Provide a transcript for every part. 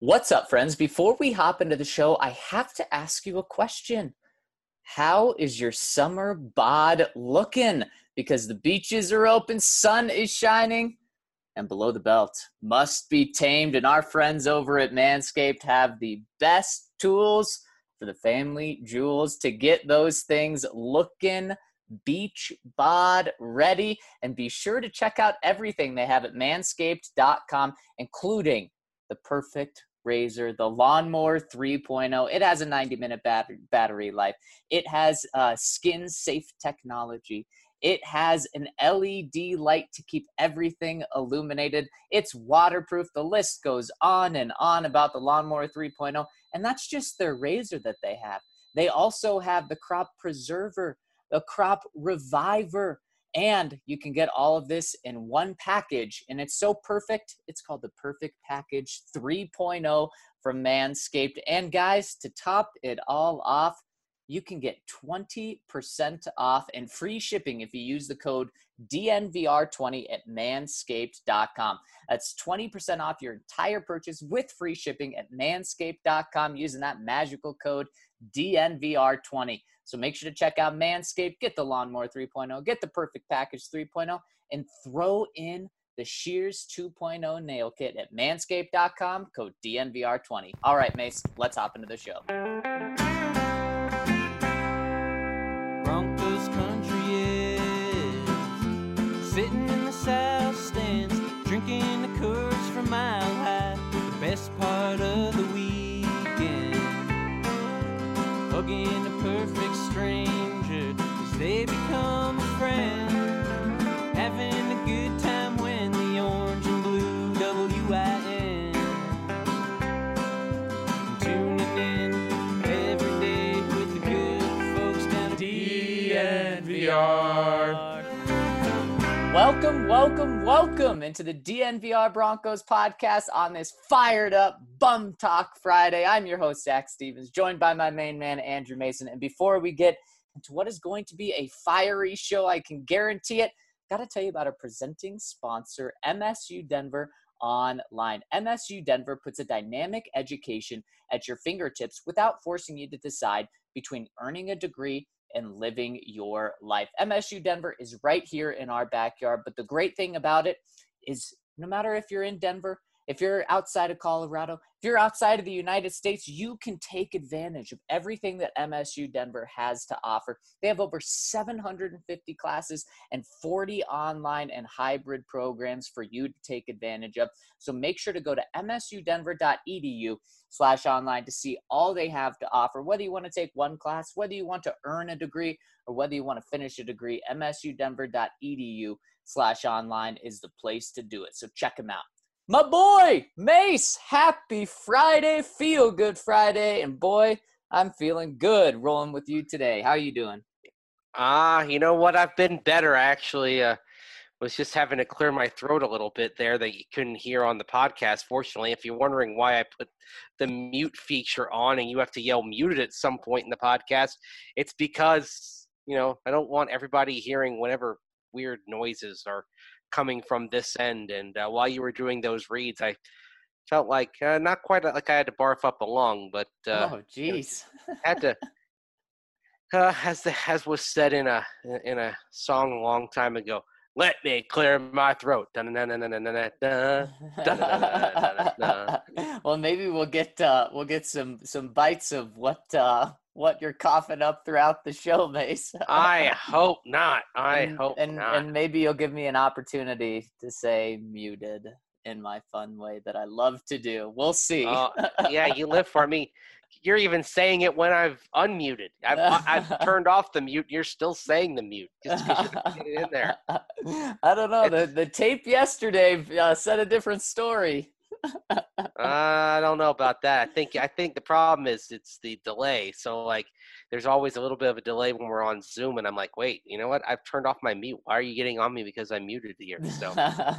What's up, friends? Before we hop into the show, I have to ask you a question. How is your summer bod looking? Because the beaches are open, sun is shining, and below the belt must be tamed. And our friends over at Manscaped have the best tools for the family jewels to get those things looking beach bod ready. And be sure to check out everything they have at manscaped.com, including the perfect razor, the Lawnmower 3.0. It has a 90-minute battery life. It has skin safe technology. It has an LED light to keep everything illuminated. It's waterproof. The list goes on and on about the Lawnmower 3.0, and that's just their razor that they have. They also have the Crop Preserver, the Crop Reviver, and you can get all of this in one package, and it's so perfect. It's called the Perfect Package 3.0 from Manscaped. And guys, to top it all off, you can get 20% off and free shipping if you use the code DNVR20 at manscaped.com. That's 20% off your entire purchase with free shipping at manscaped.com using that magical code DNVR20. So make sure to check out Manscaped, get the Lawnmower 3.0, get the Perfect Package 3.0, and throw in the Shears 2.0 nail kit at manscaped.com, code DNVR20. All right, Mace, let's hop into the show. Broncos country is sitting in the south stands, drinking the Coors from Mile High, the best part of the weekend, hugging a perfect stranger as they become a friend, having a good time when the orange and blue WIN, tuning in every day with the good folks down at DNVR. Welcome into the DNVR Broncos podcast on this fired up Bum Talk Friday. I'm your host, Zach Stevens, joined by my main man, Andrew Mason. And before we get into what is going to be a fiery show, I can guarantee it, got to tell you about our presenting sponsor, MSU Denver Online. MSU Denver puts a dynamic education at your fingertips without forcing you to decide between earning a degree and living your life. MSU Denver is right here in our backyard, but the great thing about it is no matter if you're in Denver, if you're outside of Colorado, if you're outside of the United States, you can take advantage of everything that MSU Denver has to offer. They have over 750 classes and 40 online and hybrid programs for you to take advantage of. So make sure to go to msudenver.edu/online to see all they have to offer. Whether you want to take one class, whether you want to earn a degree, or whether you want to finish a degree, msudenver.edu/online is the place to do it. So check them out. My boy, Mace, happy Friday, feel good Friday, and boy, I'm feeling good rolling with you today. How are you doing? You know what? I've been better, actually. Was just having to clear my throat a little bit there that you couldn't hear on the podcast, fortunately. If you're wondering why I put the mute feature on and you have to yell muted at some point in the podcast, it's because, I don't want everybody hearing whatever weird noises are coming from this end. And while you were doing those reads, I felt like not quite like I had to barf up a lung, but oh geez, had to as was said in a song a long time ago, let me clear my throat. Well, maybe we'll get some bites of what you're coughing up throughout the show, Mace. I hope not. I hope not. And maybe you'll give me an opportunity to say muted in my fun way that I love to do. We'll see. Yeah, you live for me. You're even saying it when I've unmuted. I've turned off the mute. You're still saying the mute just because you get it in there. I don't know. The tape yesterday said a different story. I don't know about that. I think the problem is it's the delay. So there's always a little bit of a delay when we're on Zoom, and I'm like, wait, you know what? I've turned off my mute. Why are you getting on me because I'm muted here? So,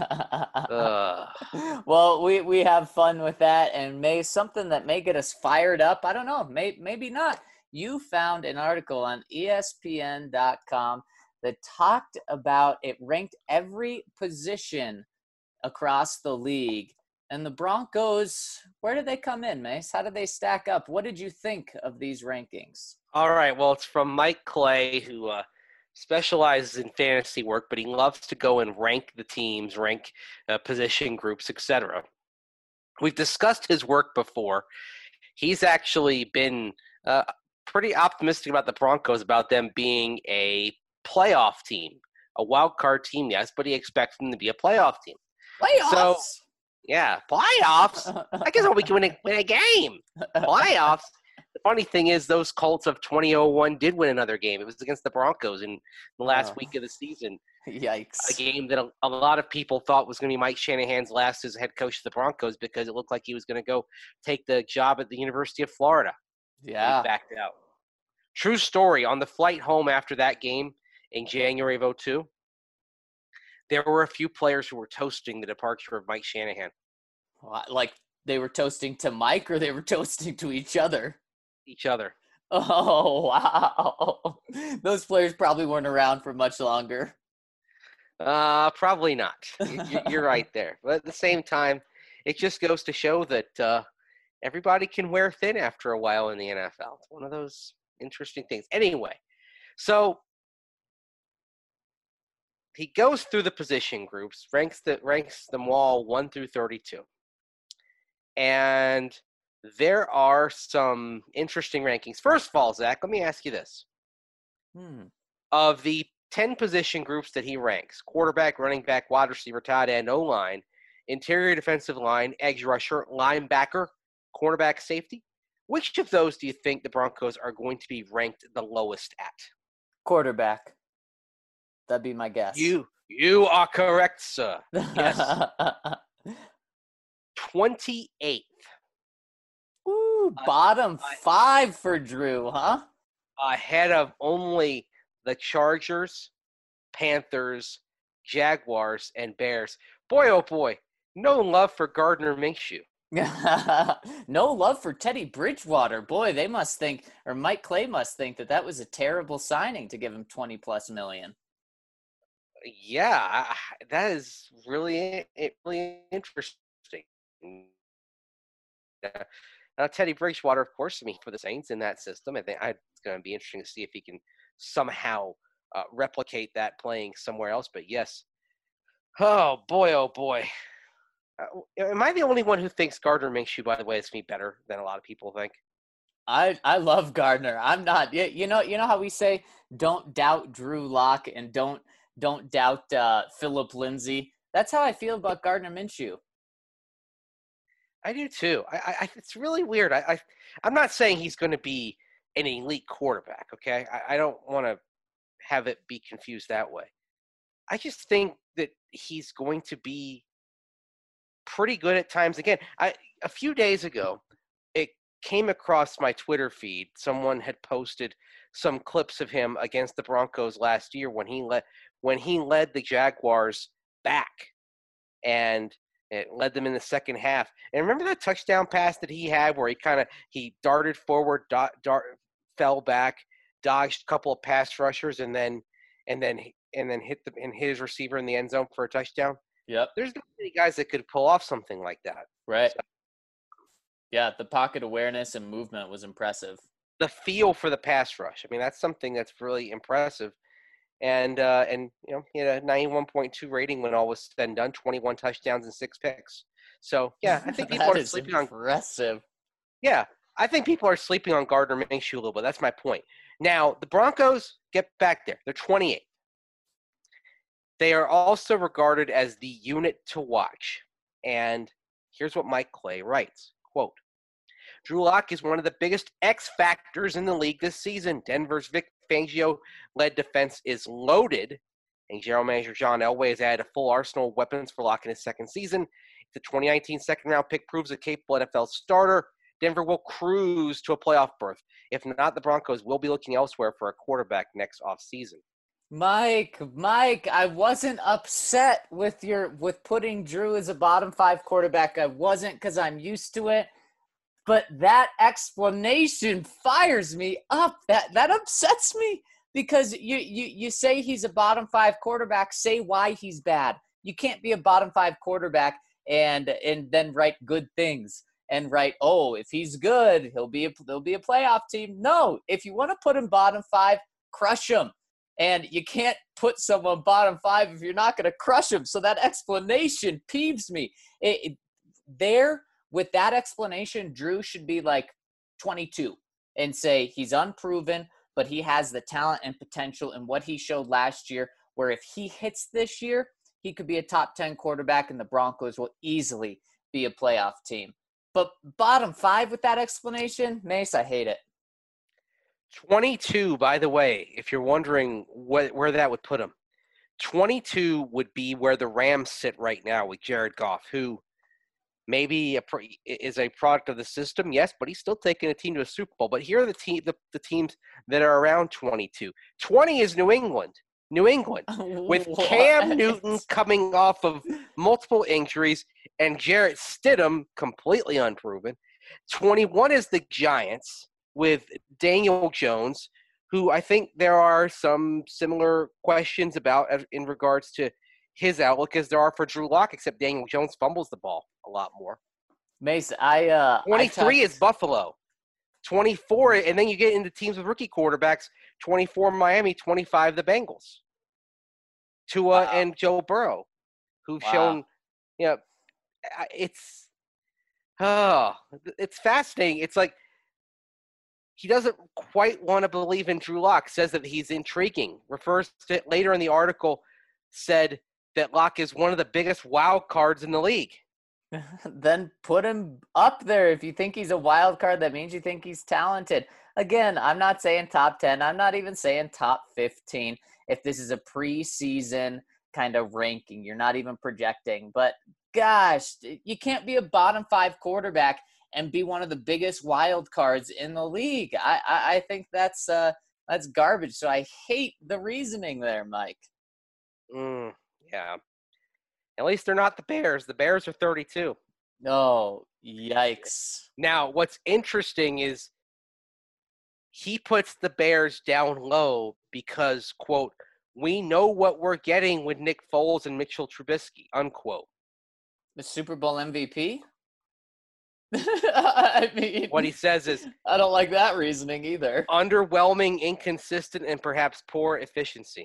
well, we have fun with that, and something that may get us fired up. I don't know. Maybe not. You found an article on ESPN.com that talked about it ranked every position across the league And the Broncos, where did they come in, Mace? How did they stack up? What did you think of these rankings? All right. Well, it's from Mike Clay, who specializes in fantasy work, but he loves to go and rank the teams, rank position groups, etc. We've discussed his work before. He's actually been pretty optimistic about the Broncos, about them being a playoff team, a wild card team, yes, but he expects them to be a playoff team. Playoffs? So, yeah, playoffs. I guess we can win a game. Playoffs. The funny thing is, those Colts of 2001 did win another game. It was against the Broncos in the last week of the season. Yikes. A game that a lot of people thought was going to be Mike Shanahan's last as head coach of the Broncos, because it looked like he was going to go take the job at the University of Florida. Yeah. He backed out. True story. On the flight home after that game in January of 2002, there were a few players who were toasting the departure of Mike Shanahan. Like they were toasting to Mike, or they were toasting to each other? Each other. Oh, wow. Those players probably weren't around for much longer. Probably not. You're right there. But at the same time, it just goes to show that everybody can wear thin after a while in the NFL. It's one of those interesting things. Anyway, so he goes through the position groups, ranks them all 1 through 32. And there are some interesting rankings. First of all, Zach, let me ask you this. Of the 10 position groups that he ranks, quarterback, running back, wide receiver, tight end, O-line, interior defensive line, edge rusher, linebacker, cornerback, safety, which of those do you think the Broncos are going to be ranked the lowest at? Quarterback. That'd be my guess. You are correct, sir. Yes. 28th. Ooh, bottom 5 for Drew, huh? Ahead of only the Chargers, Panthers, Jaguars, and Bears. Boy, oh boy, no love for Gardner Minshew. No love for Teddy Bridgewater. Boy, they must think, or Mike Clay must think, that was a terrible signing to give him $20+ million. Yeah, that is really interesting. Teddy Bridgewater, of course, for the Saints in that system. I think it's going to be interesting to see if he can somehow replicate that playing somewhere else. But yes, oh boy. Am I the only one who thinks Gardner Minshew, by the way, is going to be better than a lot of people think? I love Gardner. I'm not. You know how we say don't doubt Drew Lock and don't doubt Philip Lindsay. That's how I feel about Gardner Minshew. I do too. I it's really weird. I'm not saying he's going to be an elite quarterback. Okay, I don't want to have it be confused that way. I just think that he's going to be pretty good at times. Again, a few days ago, it came across my Twitter feed. Someone had posted some clips of him against the Broncos last year when he led the Jaguars back, and it led them in the second half. And remember that touchdown pass that he had where he darted forward, fell back, dodged a couple of pass rushers, and then hit his receiver in the end zone for a touchdown? Yep. There's not many guys that could pull off something like that. Right. So, yeah, the pocket awareness and movement was impressive. The feel for the pass rush. I mean, that's something that's really impressive. And he had a 91.2 rating when all was said and done, 21 touchdowns and 6 picks. So, yeah, I think people are sleeping on – impressive. Yeah, I think people are sleeping on Gardner Minshew a little bit. That's my point. Now, the Broncos get back there. They're 28th. They are also regarded as the unit to watch. And here's what Mike Clay writes, quote, Drew Lock is one of the biggest X factors in the league this season. Denver's Vic Fangio-led defense is loaded, and general manager John Elway has added a full arsenal of weapons for Lock in his second season. If the 2019 second-round pick proves a capable NFL starter, Denver will cruise to a playoff berth. If not, the Broncos will be looking elsewhere for a quarterback next offseason. Mike, I wasn't upset with putting Drew as a bottom 5 quarterback. I wasn't, because I'm used to it. But that explanation fires me up. That upsets me, because you say he's a bottom 5 quarterback. Say why he's bad. You can't be a bottom 5 quarterback and then write good things and write, oh, if he's good, he'll be a playoff team. No, if you want to put him bottom 5, crush him. And you can't put someone bottom 5 if you're not going to crush him. So that explanation peeves me. With that explanation, Drew should be like 22 and say he's unproven, but he has the talent and potential in what he showed last year, where if he hits this year, he could be a top 10 quarterback and the Broncos will easily be a playoff team. But bottom 5 with that explanation, Mace, I hate it. 22, by the way, if you're wondering where that would put him, 22 would be where the Rams sit right now with Jared Goff, who maybe is a product of the system, yes, but he's still taking a team to a Super Bowl. But here are the teams that are around 22. 20 is New England. With Cam Newton coming off of multiple injuries and Jarrett Stidham completely unproven. 21 is the Giants with Daniel Jones, who I think there are some similar questions about in regards to his outlook as there are for Drew Lock, except Daniel Jones fumbles the ball a lot more. Mace, 23 is Buffalo. 24, and then you get into teams with rookie quarterbacks, 24 Miami, 25 the Bengals. Tua and Joe Burrow, who've shown, it's fascinating. It's like he doesn't quite want to believe in Drew Lock, says that he's intriguing, refers to it later in the article, said that Lock is one of the biggest wild cards in the league. Then put him up there. If you think he's a wild card, that means you think he's talented. Again, I'm not saying top 10. I'm not even saying top 15. If this is a preseason kind of ranking, you're not even projecting. But gosh, you can't be a bottom 5 quarterback and be one of the biggest wild cards in the league. I think that's garbage. So I hate the reasoning there, Mike. Yeah. At least they're not the Bears. The Bears are 32. Oh, yikes. Now, what's interesting is he puts the Bears down low because, quote, we know what we're getting with Nick Foles and Mitchell Trubisky, unquote. The Super Bowl MVP? I mean, what he says is, I don't like that reasoning either. Underwhelming, inconsistent, and perhaps poor efficiency.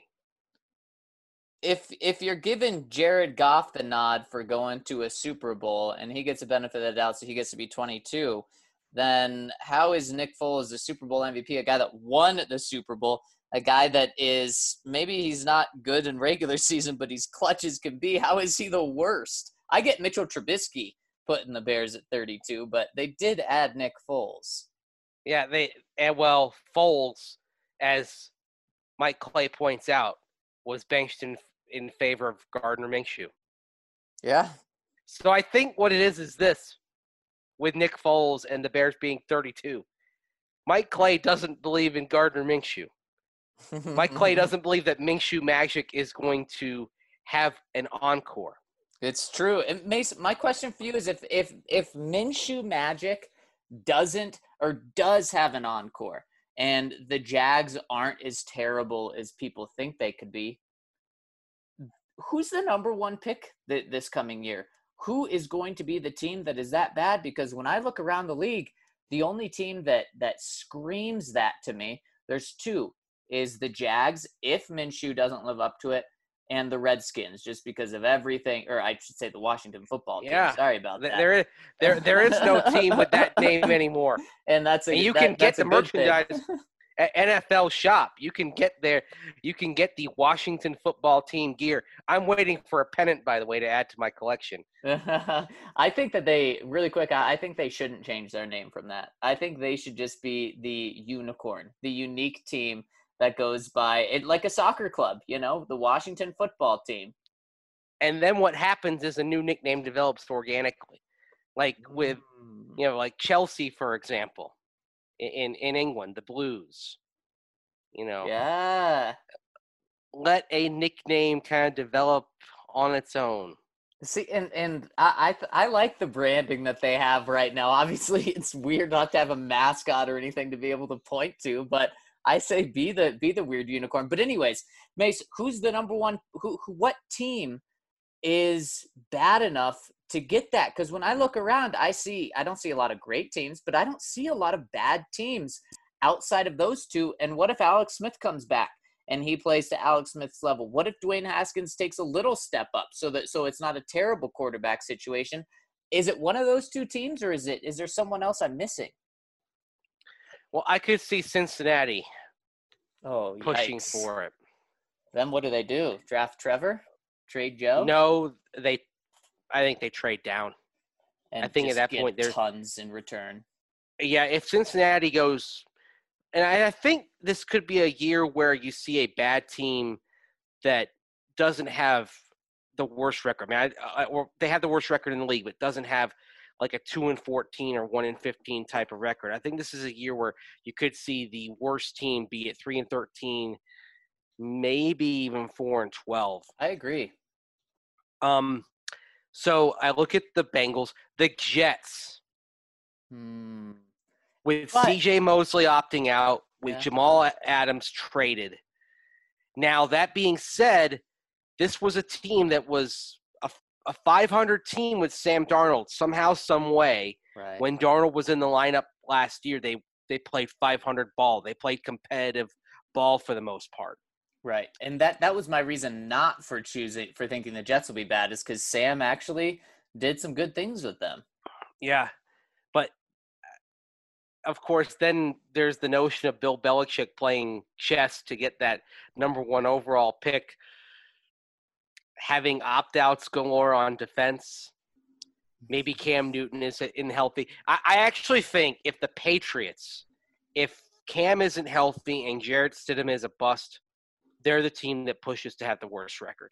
If you're giving Jared Goff the nod for going to a Super Bowl and he gets a benefit of the doubt, so he gets to be 22, then how is Nick Foles the Super Bowl MVP, a guy that won the Super Bowl, a guy that is, maybe he's not good in regular season, but he's clutch as can be? How is he the worst? I get Mitchell Trubisky putting the Bears at 32, but they did add Nick Foles. Yeah, Foles, as Mike Clay points out, was benched in favor of Gardner Minshew. Yeah. So I think what it is this, with Nick Foles and the Bears being 32. Mike Clay doesn't believe in Gardner Minshew. Mike Clay doesn't believe that Minshew Magic is going to have an encore. It's true. And Mason, my question for you is if Minshew Magic doesn't or does have an encore and the Jags aren't as terrible as people think they could be, who's the number 1 pick this coming year? Who is going to be the team that is that bad? Because when I look around the league, the only team that screams that to me, there's 2, is the Jags, if Minshew doesn't live up to it, and the Redskins, just because of everything, or I should say the Washington football team. Yeah. Sorry about that. There is no team with that name anymore. And you can get the merchandise at NFL Shop. You can get the Washington football team gear. I'm waiting for a pennant, by the way, to add to my collection. I think that I think they shouldn't change their name from that. I think they should just be the unicorn, the unique team that goes by it, like a soccer club, the Washington football team. And then what happens is a new nickname develops organically, like with, like Chelsea, for example, in England, the Blues, Yeah. Let a nickname kind of develop on its own. See, and I like the branding that they have right now. Obviously, it's weird not to have a mascot or anything to be able to point to, but I say be the weird unicorn. But anyways, Mace, who's the number 1? What team is bad enough to get that. Because when I look around, I don't see a lot of great teams, but I don't see a lot of bad teams outside of those two. And what if Alex Smith comes back and he plays to Alex Smith's level? What if Dwayne Haskins takes a little step up so it's not a terrible quarterback situation? Is it one of those two teams, or is there someone else I'm missing? Well, I could see Cincinnati pushing Yikes. for it. Then what do? Draft Trevor? Trade Joe? No, I think they trade down. And I think just at that get point there's tons in return. Yeah, if Cincinnati goes, and I think this could be a year where you see a bad team that doesn't have the worst record. I mean, or they have the worst record in the league, but doesn't have like a 2-14 or 1-15 type of record. I think this is a year where you could see the worst team be at 3-13, maybe even 4-12. I agree. So I look at the Bengals, the Jets. With C.J. Mosley opting out, with Jamal Adams traded. Now, that being said, this was a team that was a 500 team with Sam Darnold somehow, some way. Right. When Darnold was in the lineup last year, they played 500 ball. They played competitive ball for the most part. Right. And that was my reason not for thinking the Jets will be bad, is because Sam actually did some good things with them. Yeah. But, of course, then there's the notion of Bill Belichick playing chess to get that number 1 overall pick, having opt-outs galore on defense. Maybe Cam Newton isn't healthy. I actually think if the Patriots, if Cam isn't healthy and Jarrett Stidham is a bust, they're the team that pushes to have the worst record.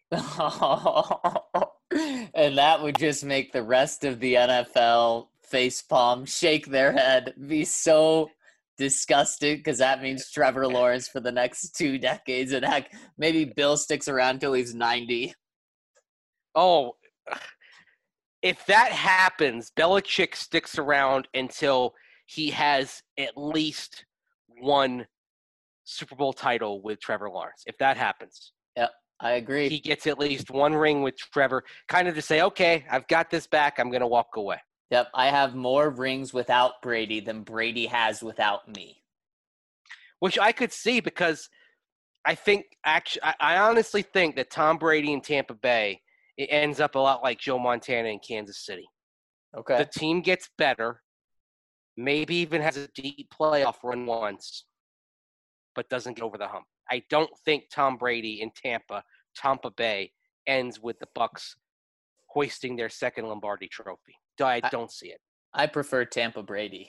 And that would just make the rest of the NFL facepalm, shake their head, be so disgusted, because that means Trevor Lawrence for the next 2 decades. And heck, maybe Bill sticks around till he's 90. Oh, if that happens, Belichick sticks around until he has at least one Super Bowl title with Trevor Lawrence. If that happens. Yep, I agree. He gets at least one ring with Trevor, kind of to say, okay, I've got this back. I'm going to walk away. Yep, I have more rings without Brady than Brady has without me. Which I could see, because I honestly think that Tom Brady in Tampa Bay, it ends up a lot like Joe Montana in Kansas City. Okay. The team gets better, maybe even has a deep playoff run once, but doesn't get over the hump. I don't think Tom Brady in Tampa Bay, ends with the Bucs hoisting their second Lombardi trophy. I don't see it. I prefer Tampa Brady.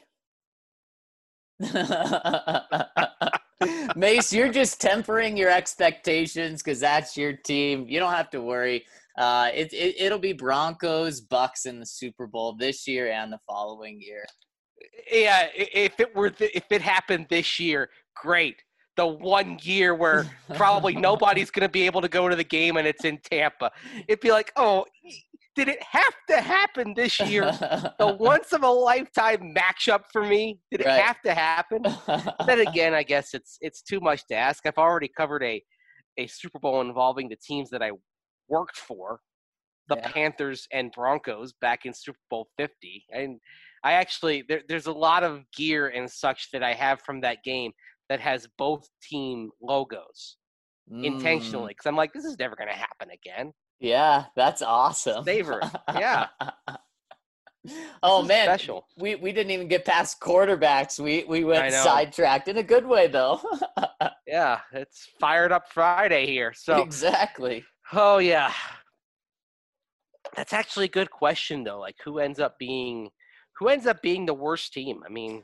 Mace, you're just tempering your expectations because that's your team. You don't have to worry. It'll be Broncos, Bucs in the Super Bowl this year and the following year. Yeah, if it happened this year, great. The 1 year where probably nobody's going to be able to go to the game and it's in Tampa. It'd be like, oh, did it have to happen this year? The once-of-a-lifetime matchup for me? Did it have to happen? But then again, I guess it's too much to ask. I've already covered a Super Bowl involving the teams that I worked for, the Panthers and Broncos back in Super Bowl 50. And I actually there's a lot of gear and such that I have from that game that has both team logos intentionally, because I'm like, this is never going to happen again. Yeah, that's awesome. Savor it. Yeah. Oh man, special. We didn't even get past quarterbacks. We went sidetracked in a good way though. Yeah, it's Fired Up Friday here. So exactly. Oh yeah. That's actually a good question though. Like who ends up being the worst team? I mean,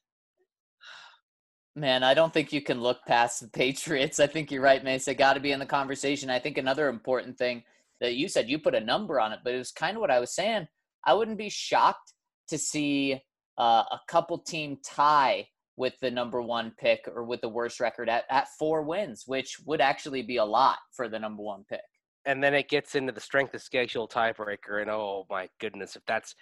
man, I don't think you can look past the Patriots. I think you're right, Mace. They got to be in the conversation. I think another important thing that you said, you put a number on it, but it was kind of what I was saying. I wouldn't be shocked to see a couple team tie with the number 1 pick or with the worst record at 4 wins, which would actually be a lot for the number 1 pick. And then it gets into the strength of schedule tiebreaker, and oh my goodness,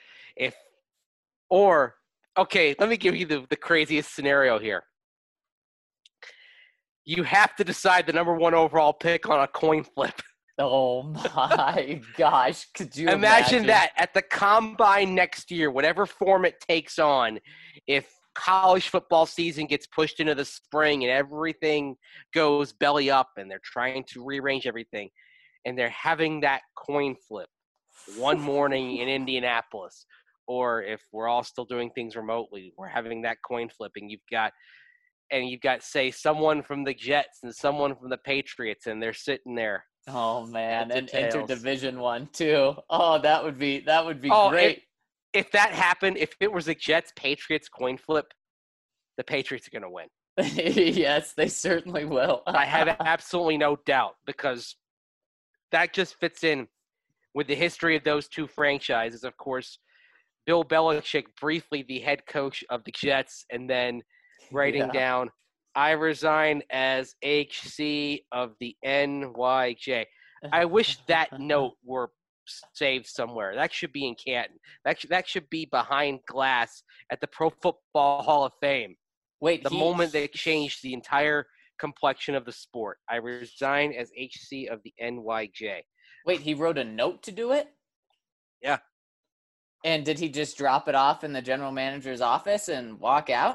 okay, let me give you the craziest scenario here. You have to decide the number 1 overall pick on a coin flip. Oh my gosh. Could you Imagine that at the combine next year, whatever form it takes on, if college football season gets pushed into the spring and everything goes belly up and they're trying to rearrange everything and they're having that coin flip one morning in Indianapolis, or if we're all still doing things remotely, we're having that coin flipping. You've got, say, someone from the Jets and someone from the Patriots, and they're sitting there. Oh man, Heads or and tails. Interdivision one too. Oh, that would be great. If that happened, if it was a Jets Patriots coin flip, the Patriots are going to win. Yes, they certainly will. I have absolutely no doubt, because that just fits in with the history of those two franchises. Of course, Bill Belichick, briefly the head coach of the Jets, and then writing Yeah. down, I resign as HC of the NYJ. I wish that note were saved somewhere. That should be in Canton. That should be behind glass at the Pro Football Hall of Fame. Wait, The moment they changed the entire complexion of the sport. I resign as HC of the NYJ. Wait, he wrote a note to do it? Yeah. And did he just drop it off in the general manager's office and walk out?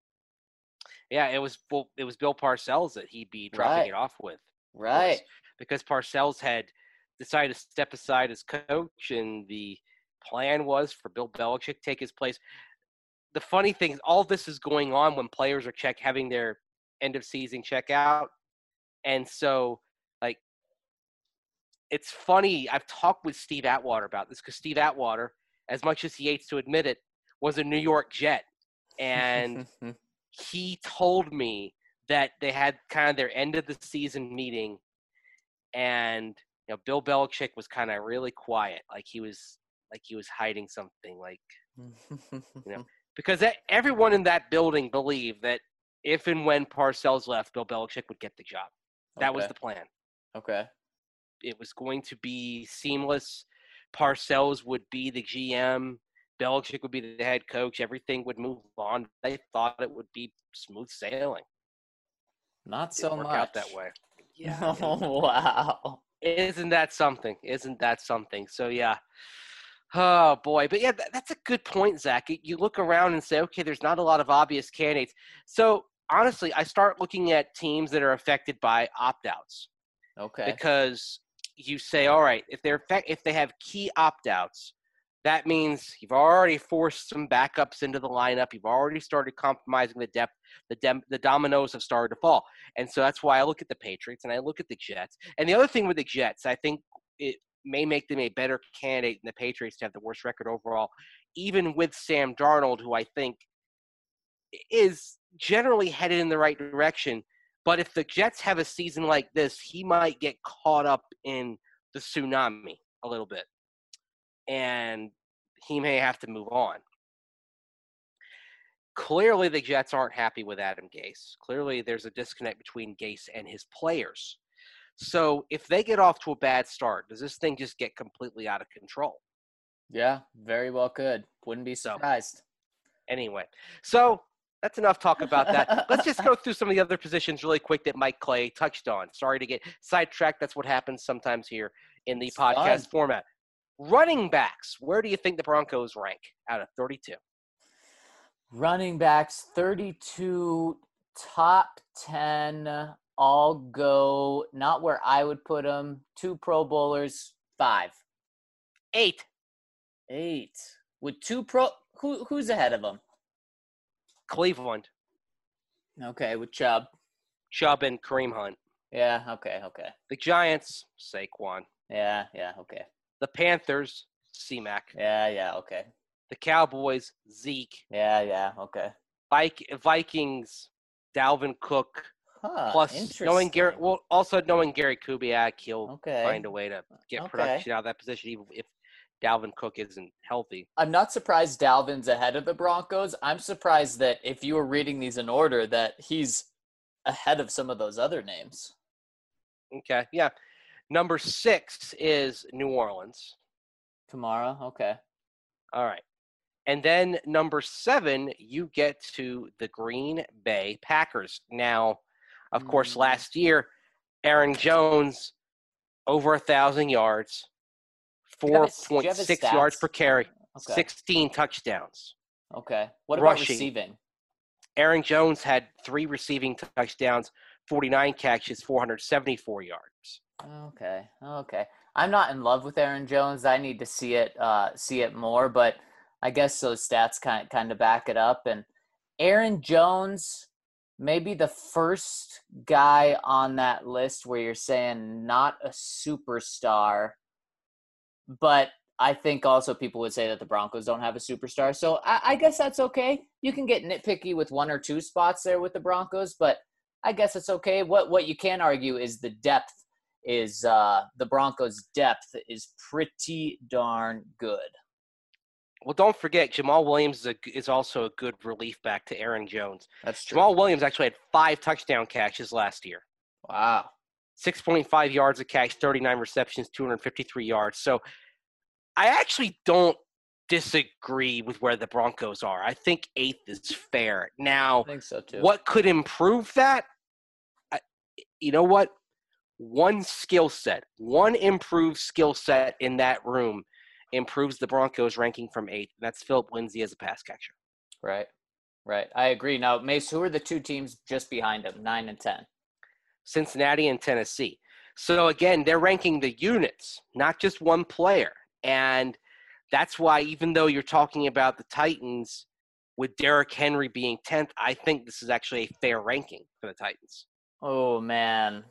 Yeah, it was Bill Parcells that he'd be dropping Right. it off with. Right. Because Parcells had decided to step aside as coach, and the plan was for Bill Belichick to take his place. The funny thing is, all this is going on when players are having their end of season checkout, and so like it's funny. I've talked with Steve Atwater about this, because Steve Atwater, as much as he hates to admit it, was a New York Jet, and he told me that they had kind of their end of the season meeting, and Bill Belichick was kind of really quiet, like he was hiding something, because everyone in that building believed that if and when Parcells left, Bill Belichick would get the job. That was Okay. the plan. Okay. It was going to be seamless. Parcells would be the GM. Belichick would be the head coach. Everything would move on. They thought it would be smooth sailing. Not so Didn't work much. out that way. Yeah. Oh, wow. Isn't that something? So, yeah. Oh, boy. But, yeah, that's a good point, Zach. You look around and say, okay, there's not a lot of obvious candidates. So, honestly, I start looking at teams that are affected by opt-outs. Okay. Because you say, all right, if they have key opt-outs, that means you've already forced some backups into the lineup. You've already started compromising the depth. The dominoes have started to fall. And so that's why I look at the Patriots and I look at the Jets. And the other thing with the Jets, I think it may make them a better candidate than the Patriots to have the worst record overall, even with Sam Darnold, who I think is generally headed in the right direction. But if the Jets have a season like this, he might get caught up in the tsunami a little bit, and he may have to move on. Clearly, the Jets aren't happy with Adam Gase. Clearly, there's a disconnect between Gase and his players. So if they get off to a bad start, does this thing just get completely out of control? Yeah, very well could. Wouldn't be surprised. Anyway, so that's enough talk about that. Let's just go through some of the other positions really quick that Mike Clay touched on. Sorry to get sidetracked. That's what happens sometimes here in the podcast format. Running backs, where do you think the Broncos rank out of 32? Running backs, 32, top 10. I'll go, not where I would put them, 2 Pro Bowlers, 5. 8. With 2 who's ahead of them? Cleveland. Okay, with Chubb. Chubb and Kareem Hunt. Yeah, okay. The Giants, Saquon. Yeah, okay. The Panthers, C-Mac. Yeah, okay. The Cowboys, Zeke. Yeah, okay. Vikings, Dalvin Cook. Huh, Plus, knowing Gary Kubiak, he'll find a way to get production out of that position, even if Dalvin Cook isn't healthy. I'm not surprised Dalvin's ahead of the Broncos. I'm surprised that if you were reading these in order, that he's ahead of some of those other names. Okay, yeah. Number 6 is New Orleans. Kamara, okay. All right. And then number 7, you get to the Green Bay Packers. Now, of course, last year, Aaron Jones over 1,000 yards, Do you have do you have his 4.6 yards per stats? carry, Okay. 16 touchdowns. Okay. What about Rushing. receiving? Aaron Jones had 3 receiving touchdowns, 49 catches, 474 yards. Okay. Okay. I'm not in love with Aaron Jones. I need to see it more, but I guess those stats kind of back it up. And Aaron Jones, maybe the first guy on that list where you're saying not a superstar, but I think also people would say that the Broncos don't have a superstar. So I guess that's okay. You can get nitpicky with 1 or 2 spots there with the Broncos, but I guess it's okay. What you can argue is the depth is the Broncos' depth is pretty darn good. Well, don't forget, Jamal Williams is also a good relief back to Aaron Jones. That's true. Jamal Williams actually had 5 touchdown catches last year. Wow. 6.5 yards a catch, 39 receptions, 253 yards. So I actually don't disagree with where the Broncos are. I think 8th is fair. Now, I think so too. what could improve that? You know what? One skill set, one improved skill set in that room improves the Broncos ranking from 8th. That's Philip Lindsay as a pass catcher. Right. I agree. Now, Mace, who are the 2 teams just behind him, 9 and 10? Cincinnati and Tennessee. So again, they're ranking the units, not just one player. And that's why, even though you're talking about the Titans with Derrick Henry being 10th, I think this is actually a fair ranking for the Titans. Oh, man.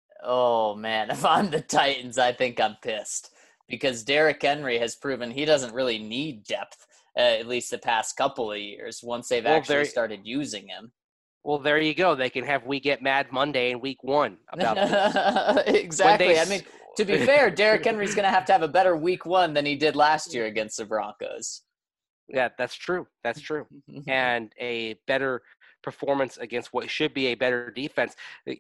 If I'm the Titans, I think I'm pissed because Derrick Henry has proven he doesn't really need depth, at least the past couple of years, once they've actually started using him. Well, there you go. They can have We Get Mad Monday in week 1 about this. Exactly. I mean, to be fair, Derrick Henry's going to have a better week 1 than he did last year against the Broncos. Yeah, that's true. That's true. And a better performance against what should be a better defense.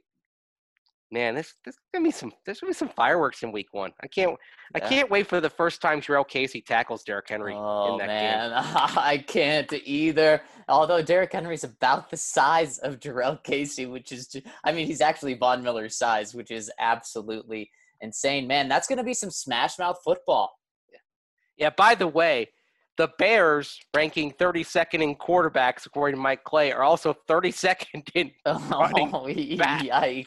Man, there's gonna be some fireworks in week 1. I can't wait for the first time Jurrell Casey tackles Derrick Henry in that game. I can't either. Although Derrick Henry's about the size of Jurrell Casey, which is, he's actually Von Miller's size, which is absolutely insane. Man, that's gonna be some smash mouth football. Yeah. By the way, the Bears, ranking 32nd in quarterbacks according to Mike Clay, are also 32nd in running back.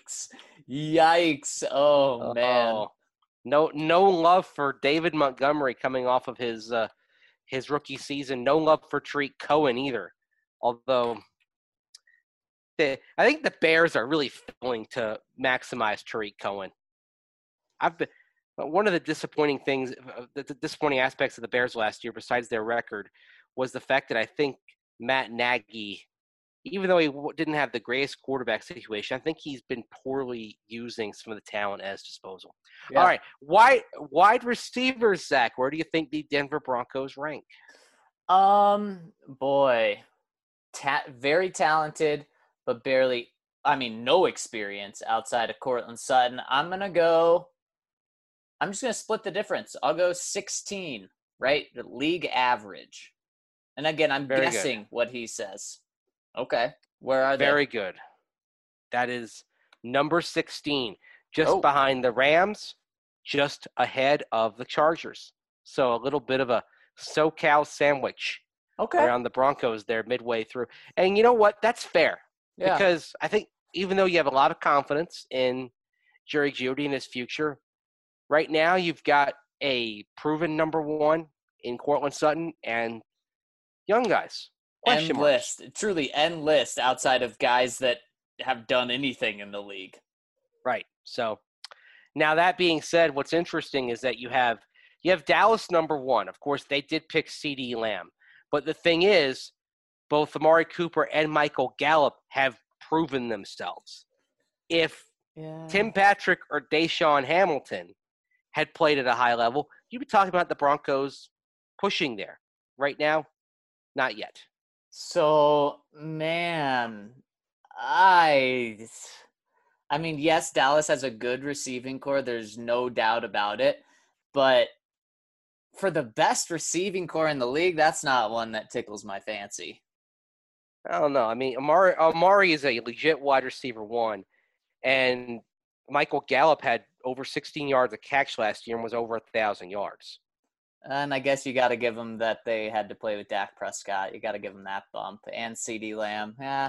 Yikes! Oh man! No love for David Montgomery coming off of his rookie season. No love for Tariq Cohen either. Although I think the Bears are really failing to maximize Tariq Cohen. One of the disappointing things, the disappointing aspects of the Bears last year, besides their record, was the fact that I think Matt Nagy, even though he didn't have the greatest quarterback situation, I think he's been poorly using some of the talent at his disposal. Yeah. All right, wide receivers, Zach, where do you think the Denver Broncos rank? Very talented, but no experience outside of Courtland Sutton. I'm just going to split the difference. I'll go 16, right? The league average. And again, I'm guessing what he says. Okay. Where are they? Very good. That is number 16, just behind the Rams, just ahead of the Chargers. So a little bit of a SoCal sandwich around the Broncos there midway through. And you know what? That's fair. Yeah. Because I think even though you have a lot of confidence in Jerry Jeudy and his future, right now you've got a proven number 1 in Courtland Sutton and young guys. Truly endless outside of guys that have done anything in the league. Right. So now that being said, what's interesting is that you have Dallas number 1. Of course, they did pick CeeDee Lamb. But the thing is, both Amari Cooper and Michael Gallup have proven themselves. If Tim Patrick or Deshaun Hamilton had played at a high level, you'd be talking about the Broncos pushing there. Right now, not yet. So, man, yes, Dallas has a good receiving core. There's no doubt about it. But for the best receiving core in the league, that's not one that tickles my fancy. I don't know. I mean, Amari is a legit wide receiver 1, and Michael Gallup had over 16 yards a catch last year and was over 1,000 yards. And I guess you got to give them that they had to play with Dak Prescott. You got to give them that bump. And CeeDee Lamb. Yeah.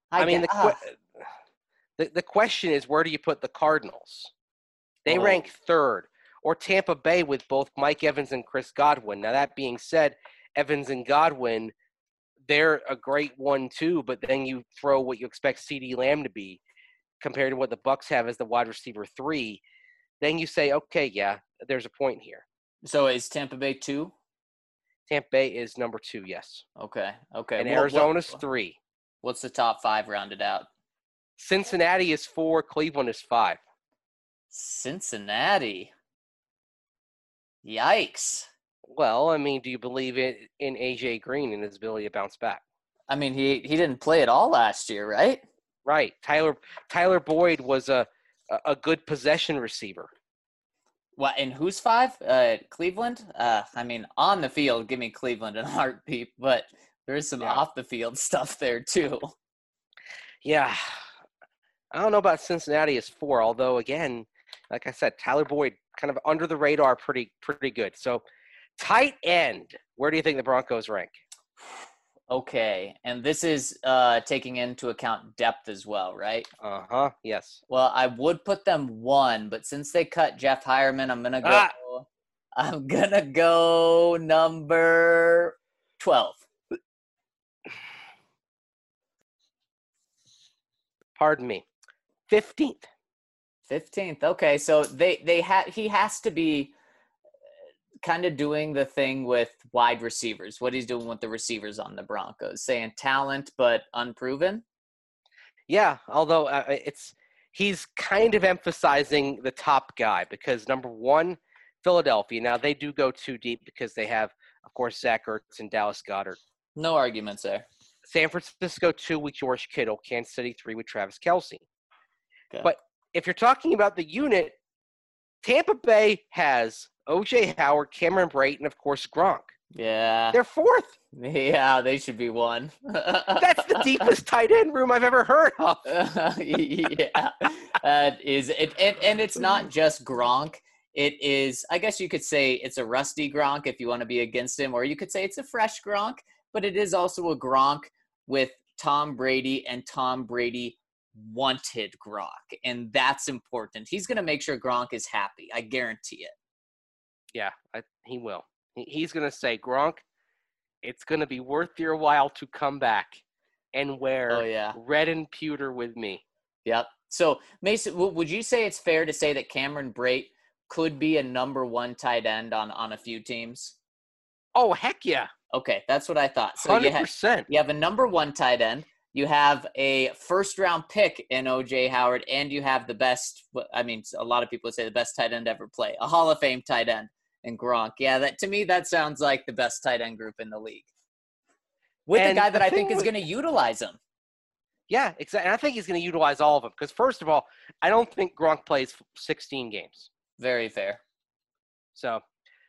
The question is, where do you put the Cardinals? They Oh. rank third. Or Tampa Bay with both Mike Evans and Chris Godwin. Now, that being said, Evans and Godwin, they're a great 1-2, but then you throw what you expect CeeDee Lamb to be compared to what the Bucs have as the wide receiver 3. Then you say, okay, yeah, there's a point here. So is Tampa Bay 2? Tampa Bay is number 2, yes. Okay. Okay. And Arizona's 3. What's the top 5 rounded out? Cincinnati is 4. Cleveland is 5. Cincinnati. Yikes. Well, I mean, do you believe in A.J. Green and his ability to bounce back? I mean, he didn't play at all last year, right? Right. Tyler Boyd was a good possession receiver. What, and who's 5? Cleveland? I mean, on the field, give me Cleveland in a heartbeat, but there's some off the field stuff there too. Yeah. I don't know about Cincinnati as 4, although again, like I said, Tyler Boyd kind of under the radar, pretty good. So tight end, where do you think the Broncos rank? Okay, and this is taking into account depth as well, right? Uh-huh, yes. Well, I would put them 1, but since they cut Jeff Hireman, I'm gonna go number 12. Pardon me. 15th. 15th. Okay, so he has to be kind of doing the thing with wide receivers, what he's doing with the receivers on the Broncos, saying talent but unproven. Yeah, although he's kind of emphasizing the top guy because number 1, Philadelphia. Now they do go too deep because they have, of course, Zach Ertz and Dallas Goedert. No arguments there. San Francisco 2 with George Kittle. Kansas City 3 with Travis Kelce. Okay. But if you're talking about the unit, Tampa Bay has O.J. Howard, Cameron Brate, and, of course, Gronk. Yeah. They're 4th. Yeah, they should be 1. That's the deepest tight end room I've ever heard of. Yeah. That is it. And it's not just Gronk. It is, I guess you could say it's a rusty Gronk if you want to be against him, or you could say it's a fresh Gronk, but it is also a Gronk with Tom Brady, and Tom Brady wanted Gronk, and that's important. He's going to make sure Gronk is happy. I guarantee it. Yeah, he will. He's going to say, Gronk, it's going to be worth your while to come back and wear red and pewter with me. Yep. So, Mason, would you say it's fair to say that Cameron Brate could be a number 1 tight end on a few teams? Oh, heck yeah. Okay, that's what I thought. So 100%. You have a number 1 tight end. You have a first-round pick in O.J. Howard, and you have the best – I mean, a lot of people say the best tight end ever play, a Hall of Fame tight end in Gronk. Yeah, to me, that sounds like the best tight end group in the league. With a guy that I think is going to utilize him. Yeah, exactly. And I think he's going to utilize all of them because, first of all, I don't think Gronk plays 16 games. Very fair. So,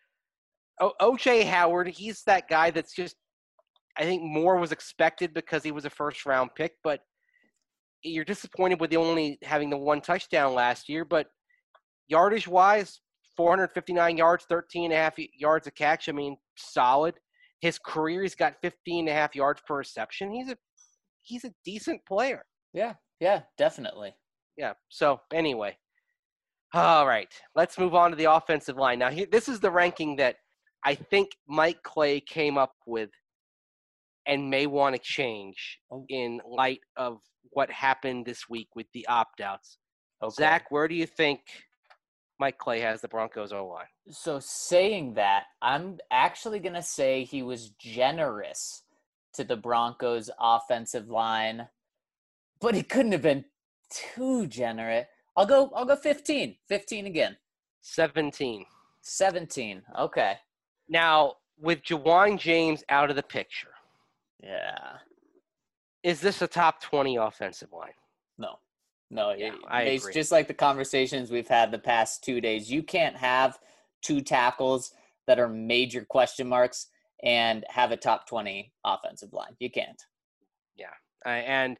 O.J. Howard, he's that guy that's just – I think more was expected because he was a first-round pick, but you're disappointed with only having the 1 touchdown last year. But yardage-wise, 459 yards, 13.5 yards a catch. I mean, solid. His career, he's got 15.5 yards per reception. He's a decent player. Yeah, definitely. Yeah, so anyway. All right, let's move on to the offensive line. Now, this is the ranking that I think Mike Clay came up with and may want to change in light of what happened this week with the opt-outs. Okay. Zach, where do you think Mike Clay has the Broncos O-line? So saying that, I'm actually going to say he was generous to the Broncos offensive line, but he couldn't have been too generous. I'll go 15. 15 again. 17. 17. Okay. Now, with Ja'Wuan James out of the picture, yeah, is this a top 20 offensive line? No, yeah, I agree. It's just like the conversations we've had the past 2 days. You can't have 2 tackles that are major question marks and have a top 20 offensive line. You can't. Yeah, and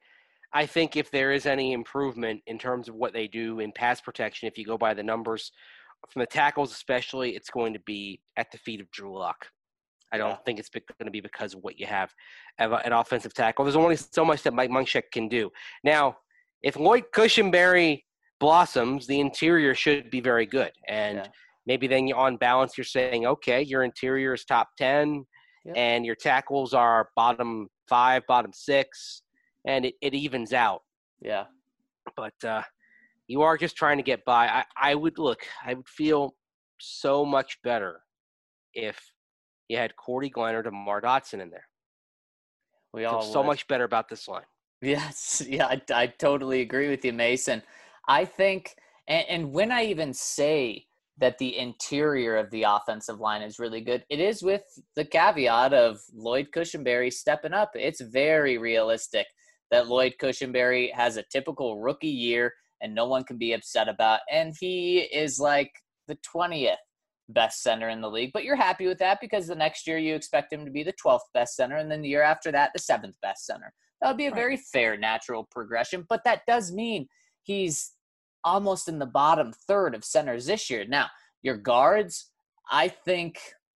I think if there is any improvement in terms of what they do in pass protection, if you go by the numbers from the tackles especially, it's going to be at the feet of Drew Lock. I Yeah. don't think it's going to be because of what you have at offensive tackle. There's only so much that Mike Munchak can do. Now, if Lloyd Cushenberry blossoms, the interior should be very good. And maybe then on balance, you're saying, okay, your interior is top 10, and your tackles are bottom 5, bottom 6, and it evens out. Yeah. But you are just trying to get by. I would feel so much better if you had Cordy Glenn or DeMar Dotson in there. We all feel so much better about this line. Yes. Yeah, I totally agree with you, Mason. I think, and when I even say that the interior of the offensive line is really good, it is with the caveat of Lloyd Cushenberry stepping up. It's very realistic that Lloyd Cushenberry has a typical rookie year and no one can be upset about. And he is like the 20th best center in the league. But you're happy with that because the next year you expect him to be the 12th best center, and then the year after that, the 7th best center. That would be a very fair, natural progression. But that does mean he's almost in the bottom third of centers this year. Now, your guards, I think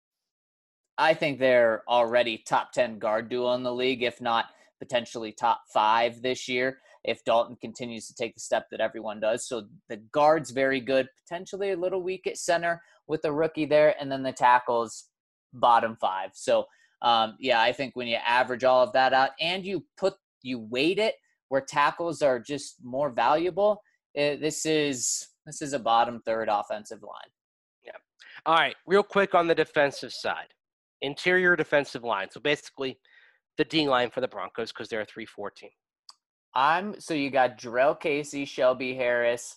they're already top 10 guard duo in the league, if not potentially top 5 this year, if Dalton continues to take the step that everyone does. So the guard's very good, potentially a little weak at center with the rookie there, and then the tackles, bottom 5. So, I think when you average all of that out and you weight it where tackles are just more valuable, this is a bottom third offensive line. Yeah. All right, real quick on the defensive side. Interior defensive line. So basically the D line for the Broncos because they're a 3-4 team. So you got Jarrell Casey, Shelby Harris,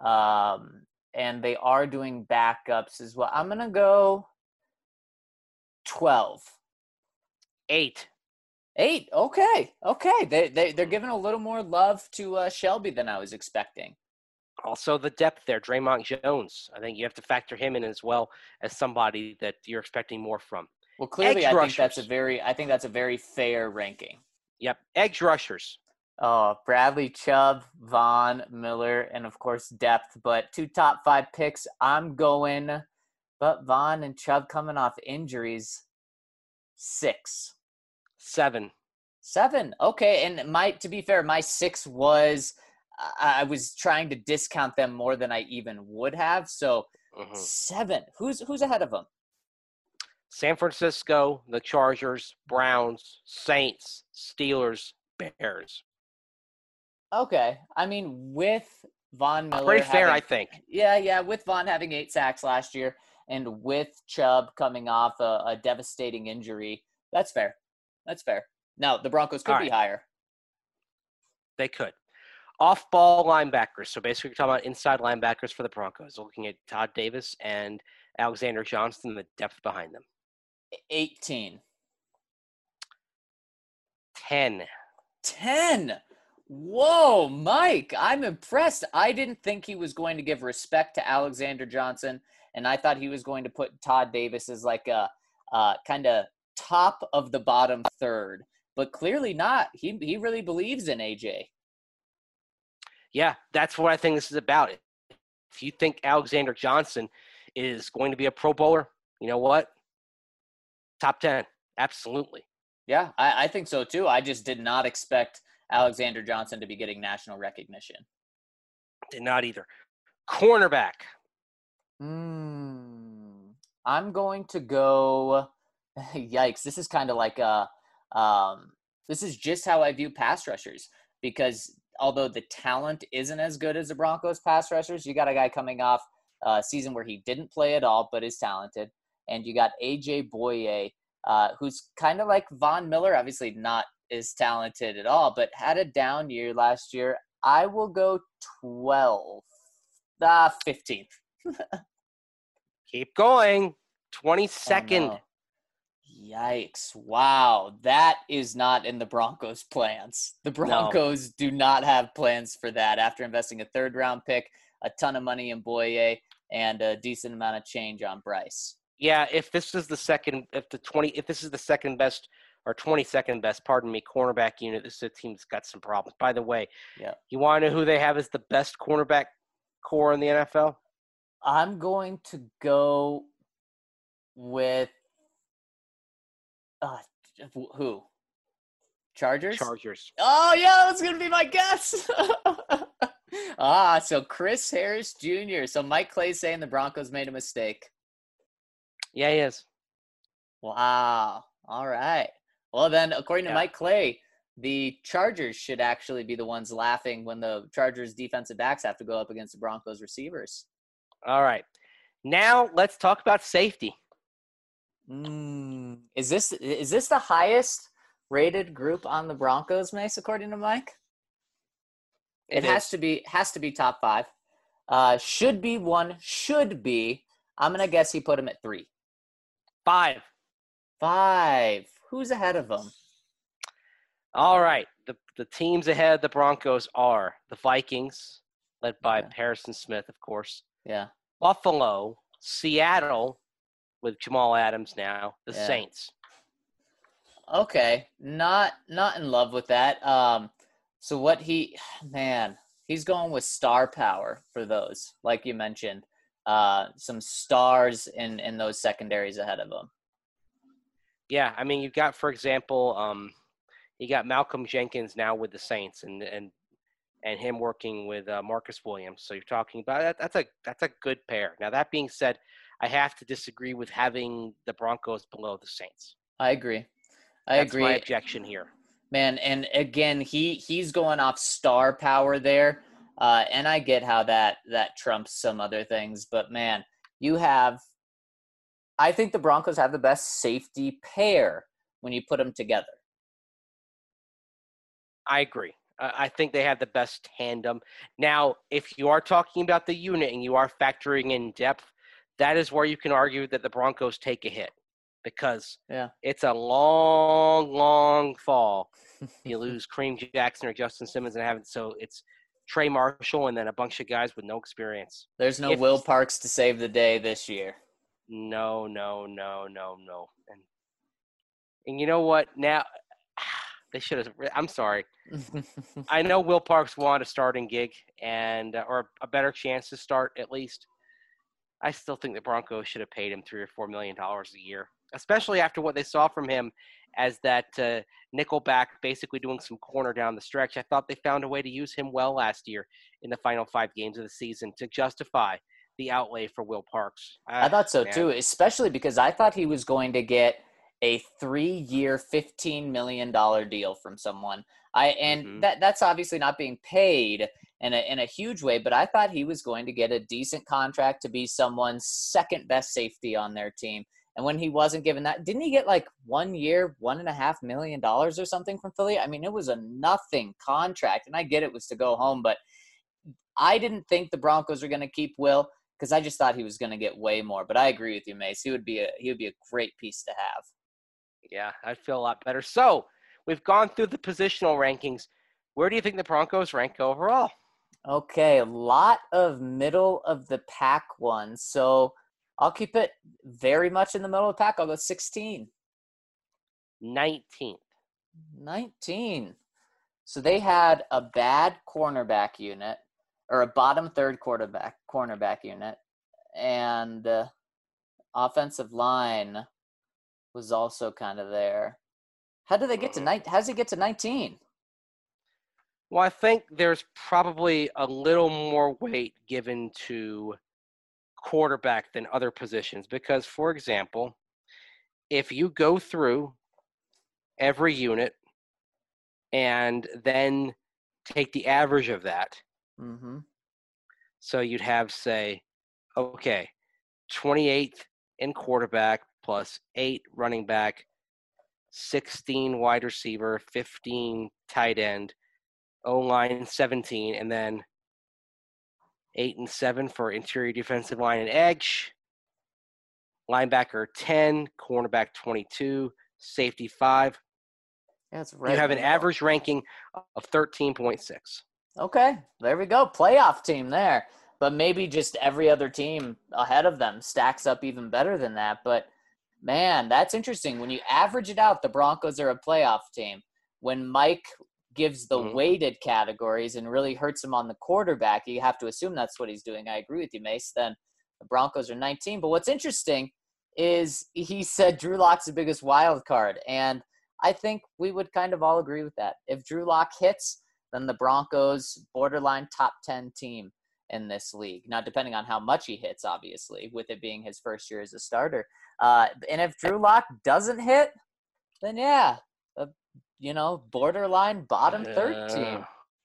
and they are doing backups as well. I'm going to go 12. 8. Okay. They're giving a little more love to Shelby than I was expecting. Also, the depth there, Draymond Jones. I think you have to factor him in as well as somebody that you're expecting more from. Well, clearly, I think that's a very fair ranking. Yep, edge rushers. Oh, Bradley Chubb, Von Miller, and of course depth. But 2 top 5 picks. I'm going, but Von and Chubb coming off injuries. 6. 7. Okay, and to be fair, my 6 was I was trying to discount them more than I even would have. So 7. Who's ahead of them? San Francisco, the Chargers, Browns, Saints, Steelers, Bears. Okay. I mean, with Von Miller. Pretty fair, I think. Yeah. With Von having 8 sacks last year and with Chubb coming off a devastating injury, that's fair. Now, the Broncos could be higher. They could. Off-ball linebackers. So basically, we're talking about inside linebackers for the Broncos. Looking at Todd Davis and Alexander Johnston, the depth behind them. 18. 10. Whoa, Mike, I'm impressed. I didn't think he was going to give respect to Alexander Johnson, and I thought he was going to put Todd Davis as like a kind of top of the bottom third, but clearly not. He really believes in AJ. Yeah, that's what I think this is about. If you think Alexander Johnson is going to be a Pro Bowler, you know what? Top 10, absolutely. Yeah, I think so too. I just did not expect Alexander Johnson to be getting national recognition. Did not either. Cornerback. I'm going to go – yikes. This is kind of like this is just how I view pass rushers because although the talent isn't as good as the Broncos pass rushers, you got a guy coming off a season where he didn't play at all but is talented. And you got AJ Boye, who's kind of like Von Miller, obviously not as talented at all, but had a down year last year. I will go 15th. Keep going. 22nd. Oh, no. Yikes. Wow. That is not in the Broncos' plans. The Broncos do not have plans for that after investing a 3rd-round pick, a ton of money in Boye, and a decent amount of change on Bryce. Yeah, if this is the second best or 22nd best, pardon me, cornerback unit. This is a team that's got some problems. By the way, Yeah. you want to know who they have as the best cornerback core in the NFL? I'm going to go with uh, who? Chargers? Chargers. Oh, yeah, that's going to be my guess. So Chris Harris Jr. So Mike Clay's saying the Broncos made a mistake. Yeah, he is. Wow. All right. Well, then, according to Mike Clay, the Chargers should actually be the ones laughing when the Chargers defensive backs have to go up against the Broncos receivers. All right. Now let's talk about safety. Is this the highest rated group on the Broncos, Mace, according to Mike? It has to be top 5. Should be 1. Should be. I'm gonna guess he put him at 3. 5. 5. Who's ahead of him? All right. The teams ahead of the Broncos are the Vikings, led by Harrison Smith, of course. Yeah. Buffalo, Seattle, with Jamal Adams now, the Saints. Okay. Not in love with that. So what he's going with star power for those, like you mentioned. Some stars in those secondaries ahead of him. Yeah, I mean, you've got, for example, you got Malcolm Jenkins now with the Saints, and him working with Marcus Williams. So you're talking about that's a good pair. Now that being said, I have to disagree with having the Broncos below the Saints. I agree. That's my objection here. Man, and again, he's going off star power there, and I get how that trumps some other things. But man, I think the Broncos have the best safety pair when you put them together. I agree. I think they have the best tandem. Now, if you are talking about the unit and you are factoring in depth, that is where you can argue that the Broncos take a hit because it's a long, long fall. You lose Kareem Jackson or Justin Simmons so it's Trey Marshall and then a bunch of guys with no experience. There's no Will Parks to save the day this year. No. And you know what? Now – they should have. I'm sorry. I know Will Parks wanted a starting gig or a better chance to start at least. I still think the Broncos should have paid him $3 or $4 million a year, especially after what they saw from him as that nickelback, basically doing some corner down the stretch. I thought they found a way to use him well last year in the final 5 games of the season to justify the outlay for Will Parks. I thought so too, especially because I thought he was going to get a 3-year, $15 million deal from someone. That's obviously not being paid in a huge way, but I thought he was going to get a decent contract to be someone's second best safety on their team. And when he wasn't given that, didn't he get like 1 year, $1.5 million or something from Philly? I mean, it was a nothing contract, and I get it was to go home, but I didn't think the Broncos were going to keep Will because I just thought he was going to get way more. But I agree with you, Mace. He would be a great piece to have. Yeah, I'd feel a lot better. So we've gone through the positional rankings. Where do you think the Broncos rank overall? Okay, a lot of middle of the pack ones. So I'll keep it very much in the middle of the pack. I'll go 16. 19th. 19. So they had a bad cornerback unit or a bottom third cornerback unit, and offensive line was also kind of there. How did they get to how does it get to 19? Well, I think there's probably a little more weight given to quarterback than other positions because, for example, if you go through every unit and then take the average of that, so you'd have, say, 28th in quarterback plus 8 running back, 16 wide receiver, 15 tight end, O-line 17, and then 8 and 7 for interior defensive line and edge, linebacker 10, cornerback 22, safety 5. That's right. You have an average ranking of 13.6. Okay, there we go. Playoff team there. But maybe just every other team ahead of them stacks up even better than that. But Man, that's interesting. When you average it out, the Broncos are a playoff team. When Mike gives the weighted categories and really hurts him on the quarterback, you have to assume that's what he's doing. I agree with you, Mace. Then the Broncos are 19. But what's interesting is he said Drew Lock's the biggest wild card. And I think we would kind of all agree with that. If Drew Lock hits, then the Broncos borderline top 10 team in this league. Now, depending on how much he hits, obviously, with it being his first year as a starter. And if Drew Lock doesn't hit, then yeah, borderline bottom third team.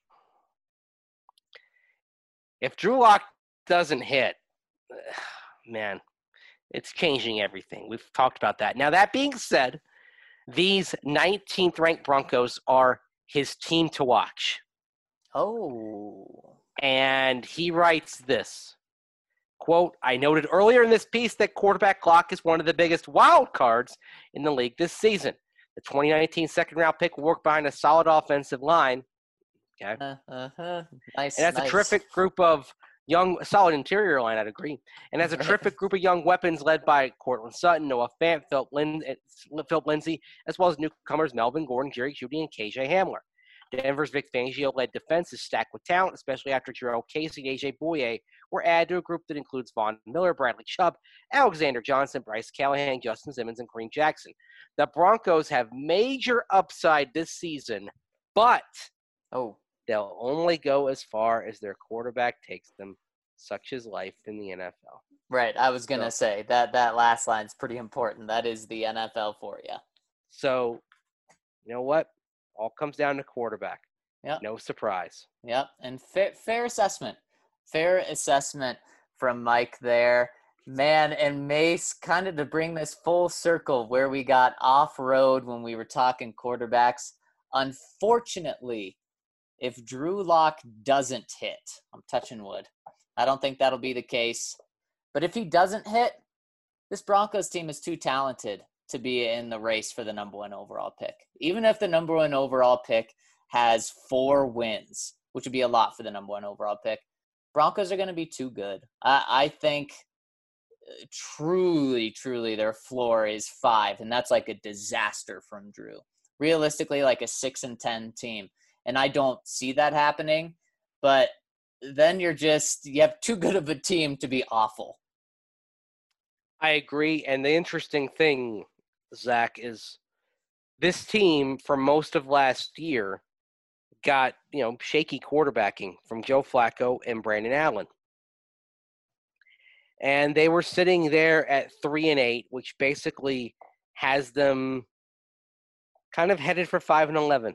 If Drew Lock doesn't hit, man, it's changing everything. We've talked about that. Now, that being said, these 19th ranked Broncos are his team to watch. Oh. And he writes this, quote, I noted earlier in this piece that quarterback lock is one of the biggest wild cards in the league this season. The 2019 second-round pick will work behind a solid offensive line. Okay. Nice. And that's a terrific group of solid interior line, I'd agree. And has a terrific group of young weapons led by Cortland Sutton, Noah Fant, Philip Lindsay, as well as newcomers Melvin Gordon, Jerry Jeudy, and KJ Hamler. Denver's Vic Fangio-led defense is stacked with talent, especially after Jarrell Casey and A.J. Boye were added to a group that includes Von Miller, Bradley Chubb, Alexander Johnson, Bryce Callahan, Justin Simmons, and Kareem Jackson. The Broncos have major upside this season, but they'll only go as far as their quarterback takes them, such is life in the NFL. Right. I was going to say that last line's pretty important. That is the NFL for you. So, you know what? All comes down to quarterback. Yep. No surprise. Yep. And fair assessment. Fair assessment from Mike there. Man, and Mace, kind of to bring this full circle where we got off-road when we were talking quarterbacks. Unfortunately, if Drew Lock doesn't hit, I'm touching wood. I don't think that'll be the case. But if he doesn't hit, this Broncos team is too talented to be in the race for the number 1 overall pick. Even if the number 1 overall pick has 4 wins, which would be a lot for the number 1 overall pick, Broncos are going to be too good. I think truly their floor is 5, and that's like a disaster from Drew. Realistically, like a 6-10 team. And I don't see that happening, but then you have too good of a team to be awful. I agree. And the interesting thing, Zach, is this team for most of last year got, shaky quarterbacking from Joe Flacco and Brandon Allen. And they were sitting there at 3-8, which basically has them kind of headed for 5-11.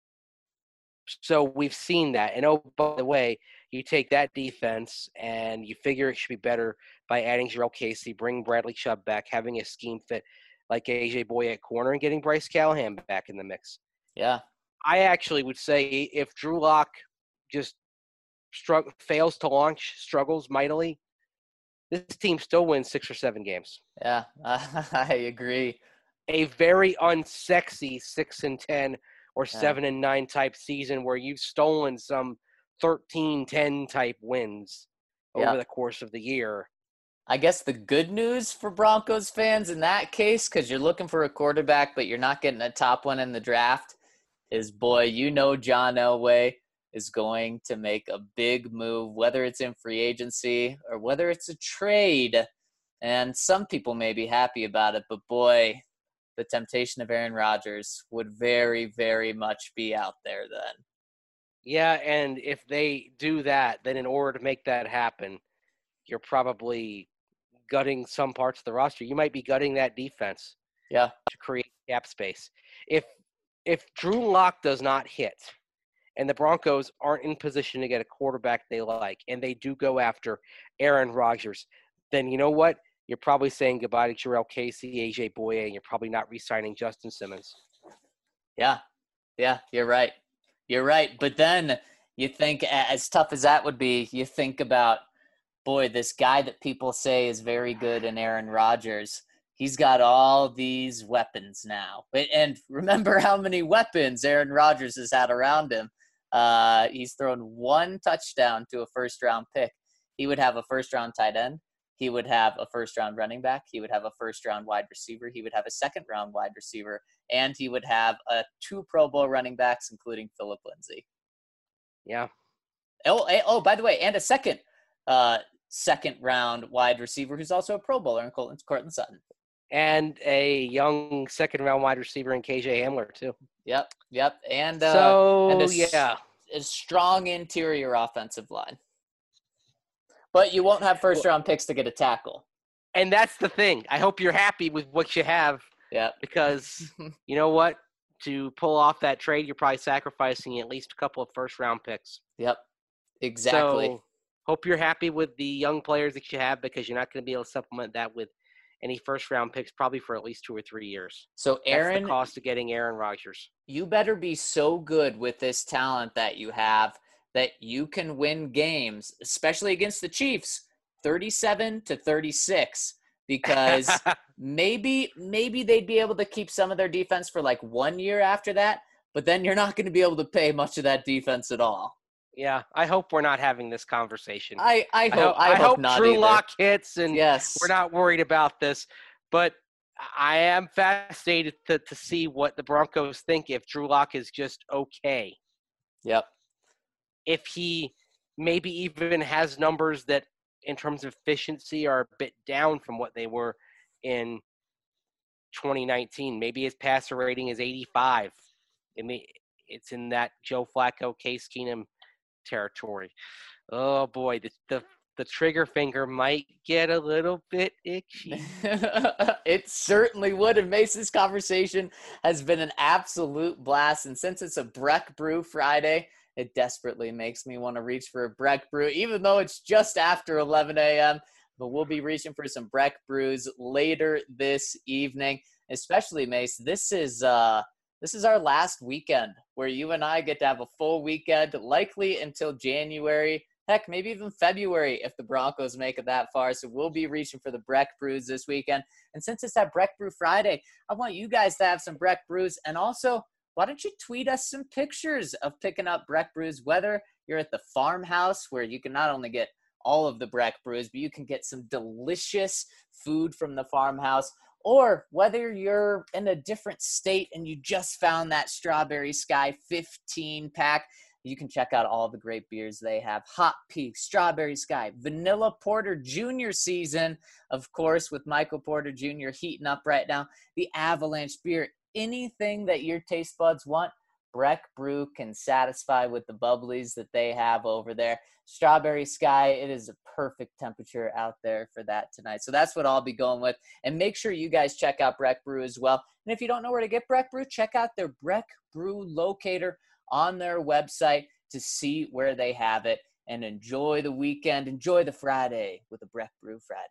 So we've seen that. And oh, by the way, you take that defense and you figure it should be better by adding Jarrell Casey, bringing Bradley Chubb back, having a scheme fit like A.J. Boye at corner, and getting Bryce Callahan back in the mix. Yeah. I actually would say if Drew Lock just fails to launch, struggles mightily, this team still wins 6 or 7 games. Yeah, I agree. A very unsexy 6-10 or 7-9 type season where you've stolen some 13-10 type wins over the course of the year. I guess the good news for Broncos fans in that case, because you're looking for a quarterback, but you're not getting a top one in the draft, is John Elway is going to make a big move, whether it's in free agency or whether it's a trade. And some people may be happy about it, but boy, the temptation of Aaron Rodgers would very, very much be out there then. Yeah, and if they do that, then in order to make that happen, you're probably gutting some parts of the roster. You might be gutting that defense to create cap space. If Drew Lock does not hit and the Broncos aren't in position to get a quarterback they like and they do go after Aaron Rodgers, then you know what? You're probably saying goodbye to Jarrell Casey, A.J. Boye, and you're probably not re-signing Justin Simmons. Yeah, you're right. You're right. But then you think, as tough as that would be, you think about, boy, this guy that people say is very good in Aaron Rodgers, he's got all these weapons now. And remember how many weapons Aaron Rodgers has had around him. He's thrown 1 touchdown to a first-round pick. He would have a first-round tight end. he would have a first-round running back, he would have a first-round wide receiver, he would have a second-round wide receiver, and he would have 2 Pro Bowl running backs, including Philip Lindsay. Yeah. Oh, by the way, and a second-round wide receiver who's also a Pro Bowler in Courtland Sutton. And a young second-round wide receiver in KJ Hamler, too. Yep. And yeah. A strong interior offensive line. But you won't have first-round picks to get a tackle. And that's the thing. I hope you're happy with what you have. Yeah. Because you know what? To pull off that trade, you're probably sacrificing at least a couple of first-round picks. Yep. Exactly. So hope you're happy with the young players that you have, because you're not going to be able to supplement that with any first-round picks probably for at least 2 or 3 years. So, Aaron, that's the cost of getting Aaron Rodgers. You better be so good with this talent that you have that you can win games, especially against the Chiefs, 37-36, because maybe they'd be able to keep some of their defense for like 1 year after that, but then you're not going to be able to pay much of that defense at all. Yeah, I hope we're not having this conversation. I hope not Drew either. Lock hits, and yes, we're not worried about this. But I am fascinated to see what the Broncos think if Drew Lock is just okay. Yep. If he maybe even has numbers that, in terms of efficiency, are a bit down from what they were in 2019. Maybe his passer rating is 85. It's in that Joe Flacco, Case Keenum territory. Oh boy, the trigger finger might get a little bit itchy. It certainly would. And Mason's conversation has been an absolute blast. And since it's a Breck Brew Friday, it desperately makes me want to reach for a Breck Brew, even though it's just after 11 a.m. But we'll be reaching for some Breck Brews later this evening. Especially, Mace, this is our last weekend where you and I get to have a full weekend, likely until January, heck, maybe even February if the Broncos make it that far. So we'll be reaching for the Breck Brews this weekend. And since it's that Breck Brew Friday, I want you guys to have some Breck Brews. And also, why don't you tweet us some pictures of picking up Breck Brews, whether you're at the farmhouse where you can not only get all of the Breck Brews, but you can get some delicious food from the farmhouse, or whether you're in a different state and you just found that Strawberry Sky 15-pack. You can check out all the great beers they have. Hot Peak, Strawberry Sky, Vanilla Porter Jr. season, of course, with Michael Porter Jr. heating up right now. The Avalanche beer, anything that your taste buds want, Breck Brew can satisfy with the bubblies that they have over there. Strawberry Sky, it is a perfect temperature out there for that tonight. So that's what I'll be going with. And make sure you guys check out Breck Brew as well. And if you don't know where to get Breck Brew, check out their Breck Brew locator on their website to see where they have it. And enjoy the weekend. Enjoy the Friday with a Breck Brew Friday.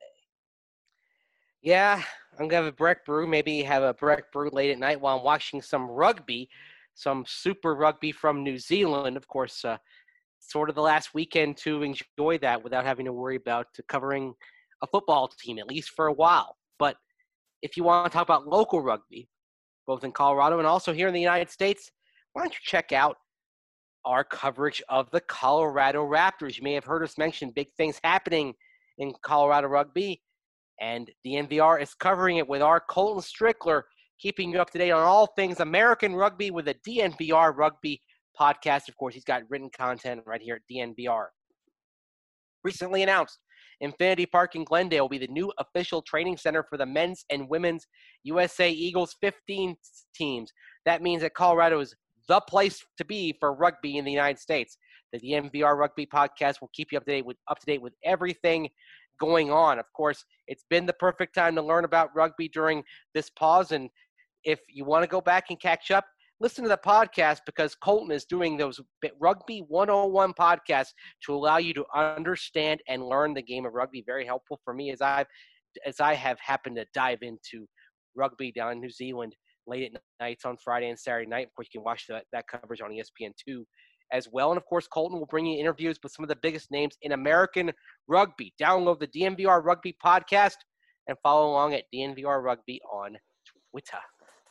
Yeah, I'm going to have a Breck Brew. Maybe have a Breck Brew late at night while I'm watching some rugby, some Super Rugby from New Zealand. Of course, sort of the last weekend to enjoy that without having to worry about covering a football team, at least for a while. But if you want to talk about local rugby, both in Colorado and also here in the United States, why don't you check out our coverage of the Colorado Raptors. You may have heard us mention big things happening in Colorado rugby, and DNVR is covering it with our Colton Strickler, keeping you up to date on all things American rugby with a DNVR rugby podcast. Of course, he's got written content right here at DNVR. Recently announced, Infinity Park in Glendale will be the new official training center for the men's and women's USA Eagles 15 teams. That means that Colorado is the place to be for rugby in the United States. The DNVR Rugby Podcast will keep you up to date with everything going on. Of course, it's been the perfect time to learn about rugby during this pause. And if you want to go back and catch up, listen to the podcast, because Colton is doing those Rugby 101 podcasts to allow you to understand and learn the game of rugby. Very helpful for me as I have happened to dive into rugby down in New Zealand late at nights on Friday and Saturday night. Of course, you can watch that coverage on ESPN2 as well. And, of course, Colton will bring you interviews with some of the biggest names in American rugby. Download the DNVR Rugby Podcast and follow along at DNVR Rugby on Twitter.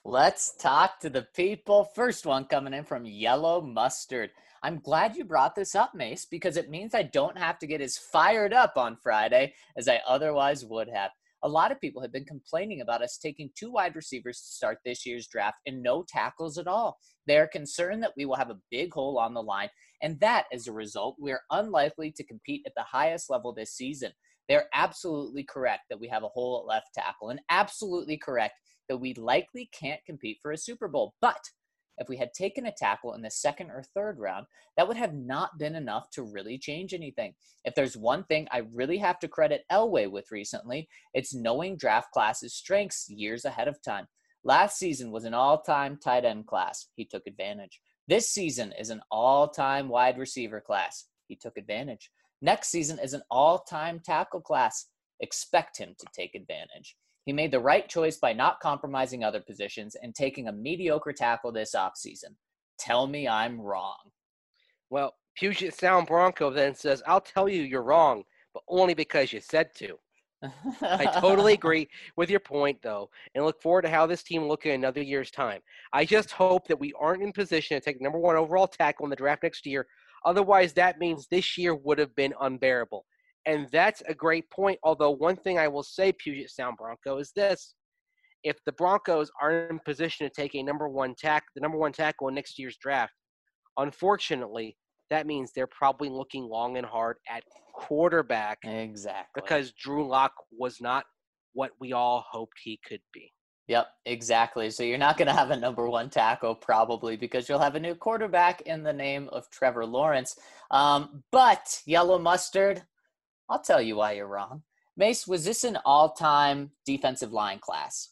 Let's talk to the people. First one coming in from Yellow Mustard. I'm glad you brought this up, Mace, because it means I don't have to get as fired up on Friday as I otherwise would have. A lot of people have been complaining about us taking 2 wide receivers to start this year's draft and no tackles at all. They are concerned that we will have a big hole on the line, and that, as a result, we are unlikely to compete at the highest level this season. They're absolutely correct that we have a hole at left tackle, and absolutely correct that we likely can't compete for a Super Bowl. But if we had taken a tackle in the second or third round, that would have not been enough to really change anything. If there's one thing I really have to credit Elway with recently, it's knowing draft classes' strengths years ahead of time. Last season was an all-time tight end class. He took advantage. This season is an all-time wide receiver class. He took advantage. Next season is an all-time tackle class. Expect him to take advantage. He made the right choice by not compromising other positions and taking a mediocre tackle this offseason. Tell me I'm wrong. Well, Puget Sound Bronco then says, I'll tell you you're wrong, but only because you said to. I totally agree with your point, though, and look forward to how this team will look in another year's time. I just hope that we aren't in position to take number 1 overall tackle in the draft next year. Otherwise, that means this year would have been unbearable. And that's a great point, although one thing I will say, Puget Sound Bronco, is this. If the Broncos are in position to take the number one tackle in next year's draft, unfortunately, that means they're probably looking long and hard at quarterback. Exactly. Because Drew Lock was not what we all hoped he could be. Yep, exactly. So you're not going to have a number 1 tackle probably because you'll have a new quarterback in the name of Trevor Lawrence. But Yellow Mustard, I'll tell you why you're wrong. Mace, was this an all-time defensive line class?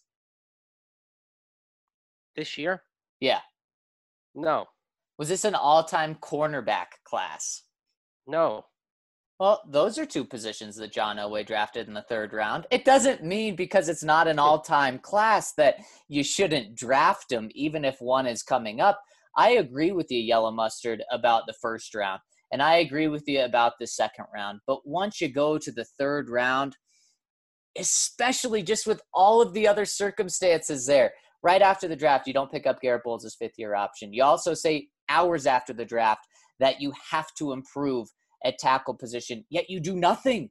This year? Yeah. No. Was this an all-time cornerback class? No. Well, those are 2 positions that John Elway drafted in the 3rd round. It doesn't mean because it's not an all-time class that you shouldn't draft them, even if one is coming up. I agree with you, Yellow Mustard, about the 1st round. And I agree with you about the 2nd round. But once you go to the 3rd round, especially just with all of the other circumstances there, right after the draft, you don't pick up Garrett Bowles' 5th-year option. You also say hours after the draft that you have to improve at tackle position, yet you do nothing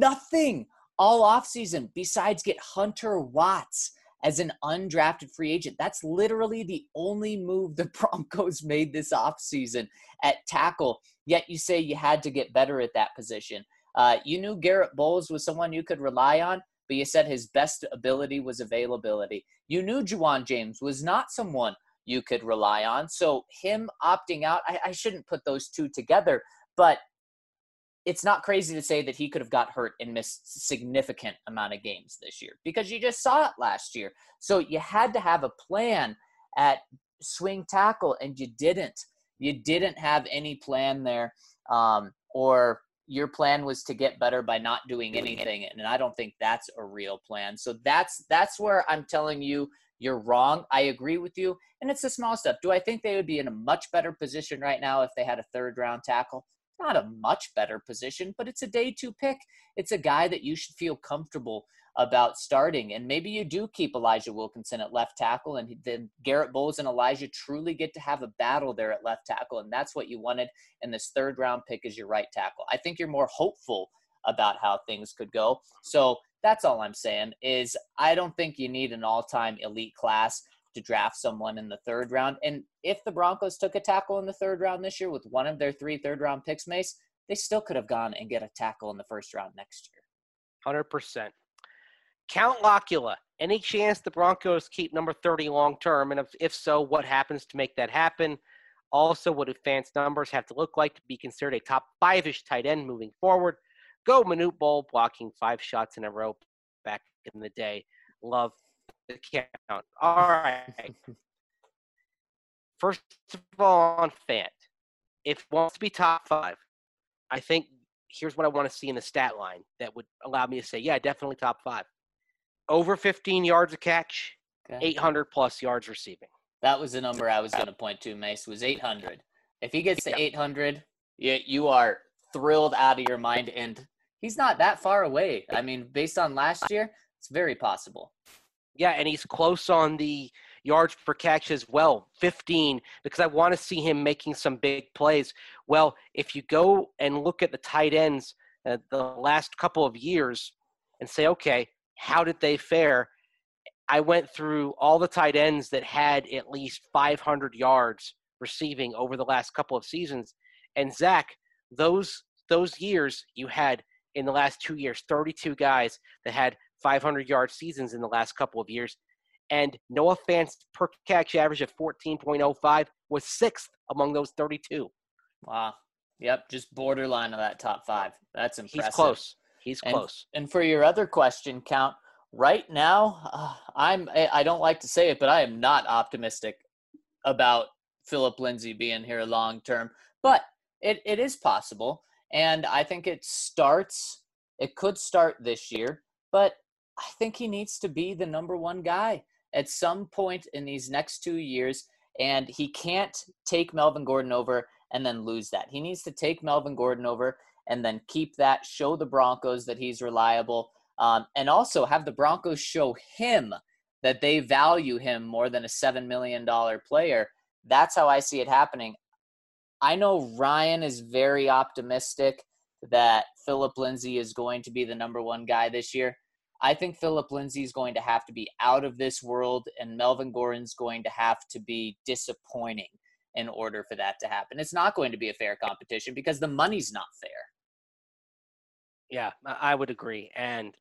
all offseason besides get Hunter Watts as an undrafted free agent. That's literally the only move the Broncos made this offseason at tackle, yet you say you had to get better at that position. You knew Garrett Bowles was someone you could rely on, but you said his best ability was availability. You knew Juwan James was not someone you could rely on, so him opting out, I shouldn't put those 2 together, but it's not crazy to say that he could have got hurt and missed significant amount of games this year because you just saw it last year. So you had to have a plan at swing tackle, and you didn't. You didn't have any plan there, or your plan was to get better by not doing anything, and I don't think that's a real plan. So that's where I'm telling you you're wrong. I agree with you, and it's the small stuff. Do I think they would be in a much better position right now if they had a 3rd-round tackle? Not a much better position, but it's a day 2 pick. It's a guy that you should feel comfortable about starting. And maybe you do keep Elijah Wilkinson at left tackle, and then Garrett Bowles and Elijah truly get to have a battle there at left tackle. And that's what you wanted in this 3rd-round pick as your right tackle. I think you're more hopeful about how things could go. So that's all I'm saying is I don't think you need an all-time elite class to draft someone in the 3rd round. And if the Broncos took a tackle in the 3rd round this year with one of their 3 third-round picks, Mace, they still could have gone and get a tackle in the 1st round next year. 100%. Count Locula. Any chance the Broncos keep number 30 long-term? And if so, what happens to make that happen? Also, what do Fant's numbers have to look like to be considered a top 5-ish tight end moving forward? Go Manute Bol, blocking 5 shots in a row back in the day. Love the count. All right. First of all, on Fant, if he wants to be top 5, I think here's what I want to see in the stat line that would allow me to say, yeah, definitely top 5. Over 15 yards a catch, okay. 800-plus yards receiving. That was the number I was going to point to, Mace, was 800. If he gets to 800, you are thrilled out of your mind, and he's not that far away. I mean, based on last year, it's very possible. Yeah, and he's close on the yards per catch as well, 15, because I want to see him making some big plays. Well, if you go and look at the tight ends the last couple of years and say, okay, how did they fare? I went through all the tight ends that had at least 500 yards receiving over the last couple of seasons. And Zach, those years you had in the last 2 years, 32 guys that had 500-yard seasons in the last couple of years. And Noah Fant's per catch average of 14.05 was sixth among those 32. Wow. Yep, just borderline of that top 5. That's impressive. He's close. And for your other question, Count, right now, I don't like to say it, but I am not optimistic about Philip Lindsay being here long term. But it is possible, and I think it could start this year, but I think he needs to be the number one guy at some point in these next 2 years, and he can't take Melvin Gordon over and then lose that. He needs to take Melvin Gordon over and then keep that, show the Broncos that he's reliable, and also have the Broncos show him that they value him more than a $7 million player. That's how I see it happening. I know Ryan is very optimistic that Philip Lindsay is going to be the number one guy this year. I think Philip Lindsay is going to have to be out of this world, and Melvin Gordon's going to have to be disappointing in order for that to happen. It's not going to be a fair competition because the money's not fair. Yeah, I would agree. And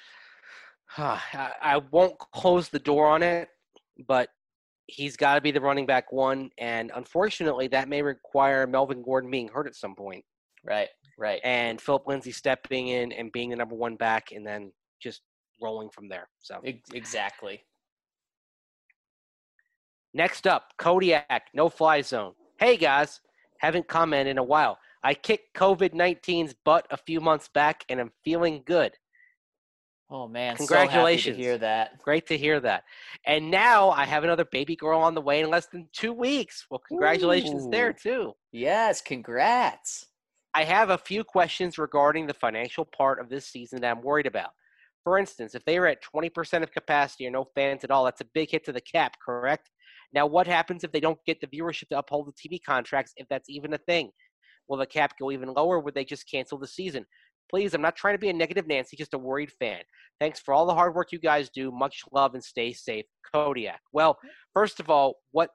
I won't close the door on it, but he's got to be the running back one. And unfortunately, that may require Melvin Gordon being hurt at some point. Right. And Philip Lindsay stepping in and being the number one back and then just rolling from there. So exactly. Next up, Kodiak, no-fly zone. Hey, guys, haven't commented in a while. I kicked COVID-19's butt a few months back, and I'm feeling good. Oh, man. Congratulations. So happy to hear that. Great to hear that. And now I have another baby girl on the way in less than 2 weeks. Well, congratulations there, too. Yes, congrats. I have a few questions regarding the financial part of this season that I'm worried about. For instance, if they are at 20% of capacity or no fans at all, that's a big hit to the cap, correct? Now, what happens if they don't get the viewership to uphold the TV contracts, if that's even a thing? Will the cap go even lower? Would they just cancel the season? Please, I'm not trying to be a negative Nancy, just a worried fan. Thanks for all the hard work you guys do. Much love and stay safe. Kodiak. Well, first of all, when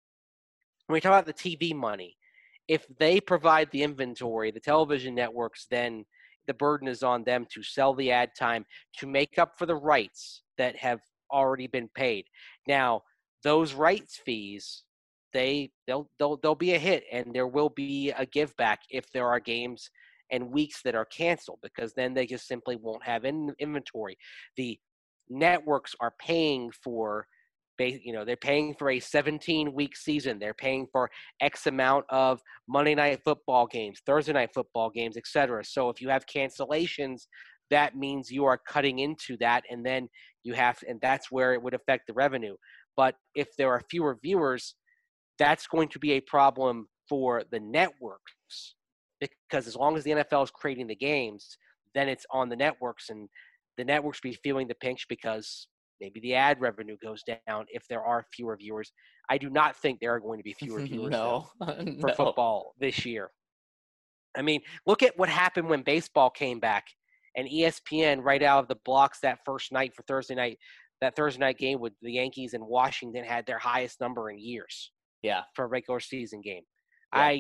we talk about the TV money, if they provide the inventory, the television networks, then the burden is on them to sell the ad time to make up for the rights that have already been paid. Now, those rights fees, they'll be a hit, and there will be a give back if there are games and weeks that are canceled, because then they just simply won't have inventory. The networks are paying for, they're paying for a 17-week season. They're paying for X amount of Monday night football games, Thursday night football games, etc. So if you have cancellations, that means you are cutting into that, and then and that's where it would affect the revenue. But if there are fewer viewers, that's going to be a problem for the networks, because as long as the NFL is creating the games, then it's on the networks, and the networks be feeling the pinch because maybe the ad revenue goes down if there are fewer viewers. I do not think there are going to be fewer viewers for football this year. I mean, look at what happened when baseball came back, and ESPN right out of the blocks that first night for Thursday night, that Thursday night game with the Yankees and Washington had their highest number in years. Yeah, for a regular season game. Yeah.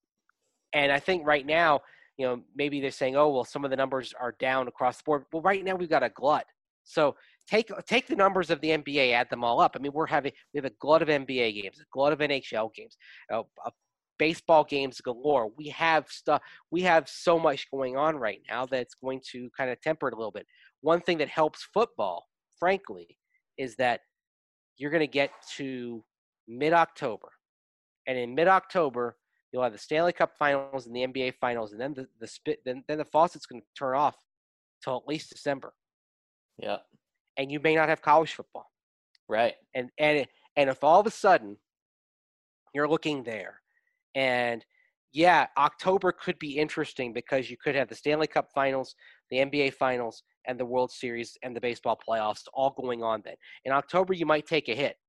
I think right now, maybe they're saying, oh, well, some of the numbers are down across the board. Well, right now we've got a glut. So take the numbers of the NBA, add them all up. I mean, we have a glut of NBA games, a glut of NHL games, baseball games galore. We have so much going on right now that's going to kind of temper it a little bit. One thing that helps football, frankly, is that you're going to get to mid-October. And in mid-October, you'll have the Stanley Cup Finals and the NBA Finals, and then the faucet's going to turn off till at least December. Yeah. And you may not have college football. Right. And if all of a sudden you're looking there, and yeah, October could be interesting because you could have the Stanley Cup Finals, the NBA Finals, and the World Series and the baseball playoffs all going on then. In October, you might take a hit.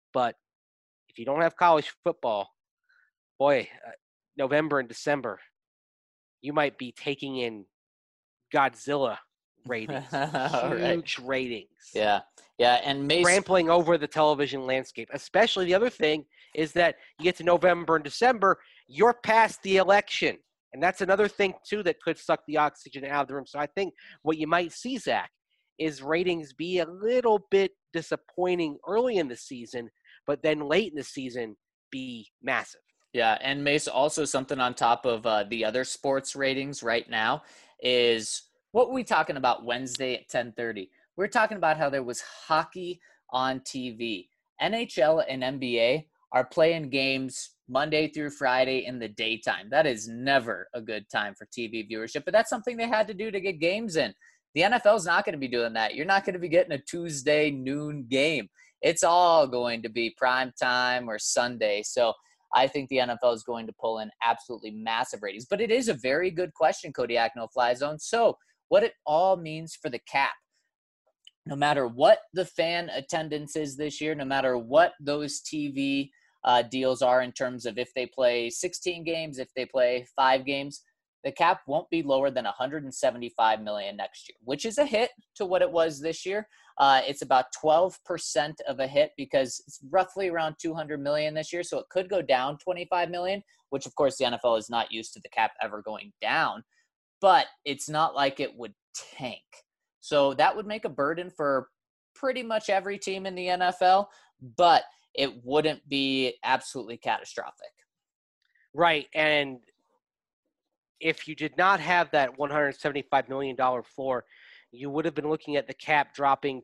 But if you don't have college football, boy, November and December, you might be taking in Godzilla ratings, All right. huge ratings, Yeah. Yeah. And Mace, trampling over the television landscape. Especially the other thing is that you get to November and December, you're past the election. And that's another thing, too, that could suck the oxygen out of the room. So I think what you might see, Zach, is ratings be a little bit disappointing early in the season, but then late in the season be massive. yeah. And Mace, also something on top of the other sports ratings right now is what were we talking about Wednesday at 10:30? We're talking about how there was hockey on TV. NHL and NBA are playing games Monday through Friday in the daytime. That is never a good time for TV viewership, but that's something they had to do to get games in. The NFL is not going to be doing that. You're not going to be getting a Tuesday noon game. It's all going to be prime time or Sunday. So I think the NFL is going to pull in absolutely massive ratings. But it is a very good question, Kodiak No Fly Zone. So what it all means for the cap. No matter what the fan attendance is this year, no matter what those TV deals are in terms of if they play 16 games, if they play 5 games, the cap won't be lower than 175 million next year, which is a hit to what it was this year. It's about 12% of a hit because it's roughly around 200 million this year. So it could go down 25 million, which of course the NFL is not used to the cap ever going down, but it's not like it would tank. So that would make a burden for pretty much every team in the NFL, but it wouldn't be absolutely catastrophic. Right. And if you did not have that $175 million floor, you would have been looking at the cap dropping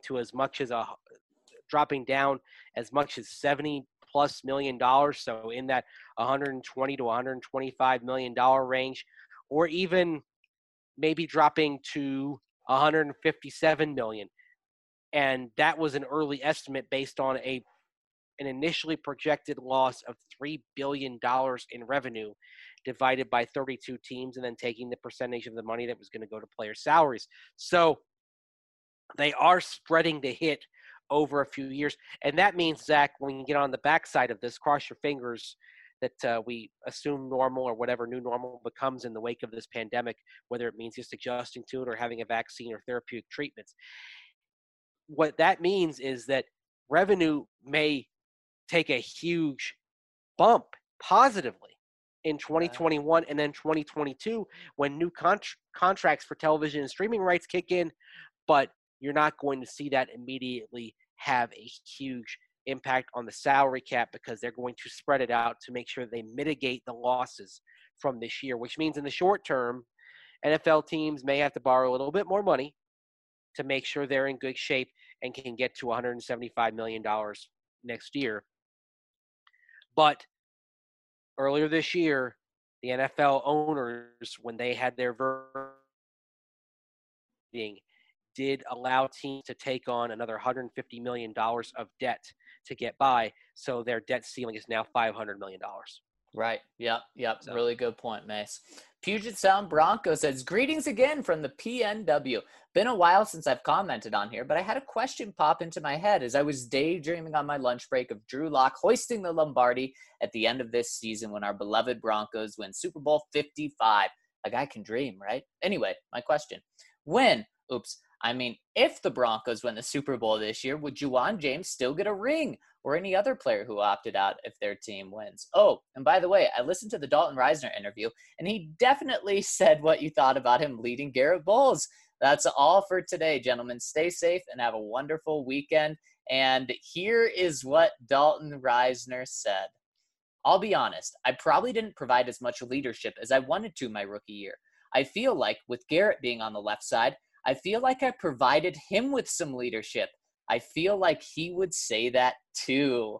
down as much as 70 plus $million. So in that 120 to 125 $million range, or even maybe dropping to 157 million. And that was an early estimate based on an initially projected loss of $3 billion in revenue divided by 32 teams and then taking the percentage of the money that was going to go to player salaries. So they are spreading the hit over a few years. And that means, Zach, when you get on the backside of this, cross your fingers that we assume normal or whatever new normal becomes in the wake of this pandemic, whether it means just adjusting to it or having a vaccine or therapeutic treatments. What that means is that revenue may take a huge bump positively in 2021 and then 2022 when new contracts for television and streaming rights kick in, but you're not going to see that immediately have a huge impact on the salary cap because they're going to spread it out to make sure they mitigate the losses from this year, which means in the short term, NFL teams may have to borrow a little bit more money to make sure they're in good shape and can get to $175 million next year. But earlier this year, the NFL owners, when they had their meeting, did allow teams to take on another $150 million of debt to get by. So their debt ceiling is now $500 million. Right. Yep. So. Really good point, Mace. Puget Sound Bronco says, greetings again from the PNW. Been a while since I've commented on here, but I had a question pop into my head as I was daydreaming on my lunch break of Drew Lock hoisting the Lombardi at the end of this season when our beloved Broncos win Super Bowl 55. A guy can dream, right? Anyway, my question. If the Broncos win the Super Bowl this year, would Juwan James still get a ring or any other player who opted out if their team wins? Oh, and by the way, I listened to the Dalton Reisner interview, and he definitely said what you thought about him leading Garrett Bowles. That's all for today, gentlemen. Stay safe and have a wonderful weekend. And here is what Dalton Reisner said. I'll be honest, I probably didn't provide as much leadership as I wanted to my rookie year. I feel like with Garrett being on the left side, I feel like I provided him with some leadership. I feel like he would say that too.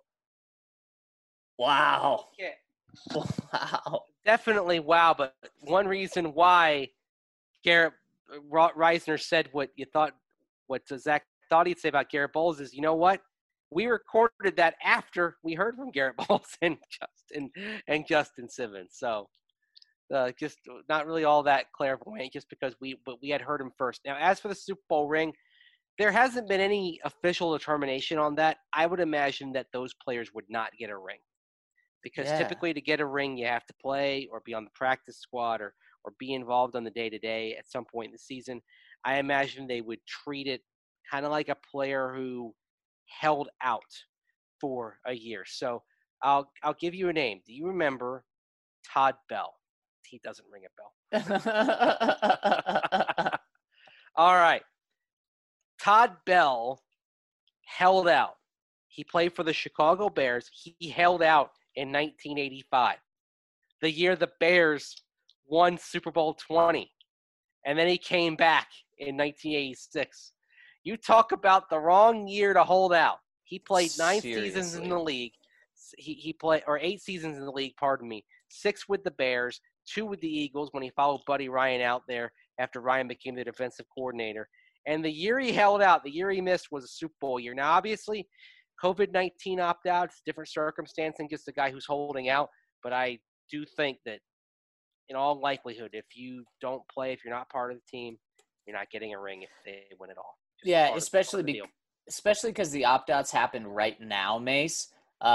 Wow. Yeah. Wow. Definitely wow. But one reason why Garrett Reisner said what Zach thought he'd say about Garrett Bowles is, you know what? We recorded that after we heard from Garrett Bowles and Justin Simmons. So just not really all that clairvoyant, just because we had heard him first. Now, as for the Super Bowl ring, there hasn't been any official determination on that. I would imagine that those players would not get a ring because Yeah. typically to get a ring, you have to play or be on the practice squad or be involved on the day-to-day at some point in the season. I imagine they would treat it kind of like a player who held out for a year. So I'll give you a name. Do you remember Todd Bell? He doesn't ring a bell. All right. Todd Bell held out. He played for the Chicago Bears. He held out in 1985, the year the Bears won Super Bowl 20. And then he came back in 1986. You talk about the wrong year to hold out. He played 9 seasons in the league. He played, or 8 seasons in the league, pardon me. 6 with the Bears, 2 with the Eagles when he followed Buddy Ryan out there after Ryan became the defensive coordinator. And the year he held out, the year he missed, was a Super Bowl year. Now, obviously, COVID-19 opt-out, it's a different circumstance than just the guy who's holding out. But I do think that in all likelihood, if you don't play, if you're not part of the team, you're not getting a ring if they win it all. Yeah, especially because the opt-outs happen right now, Mace.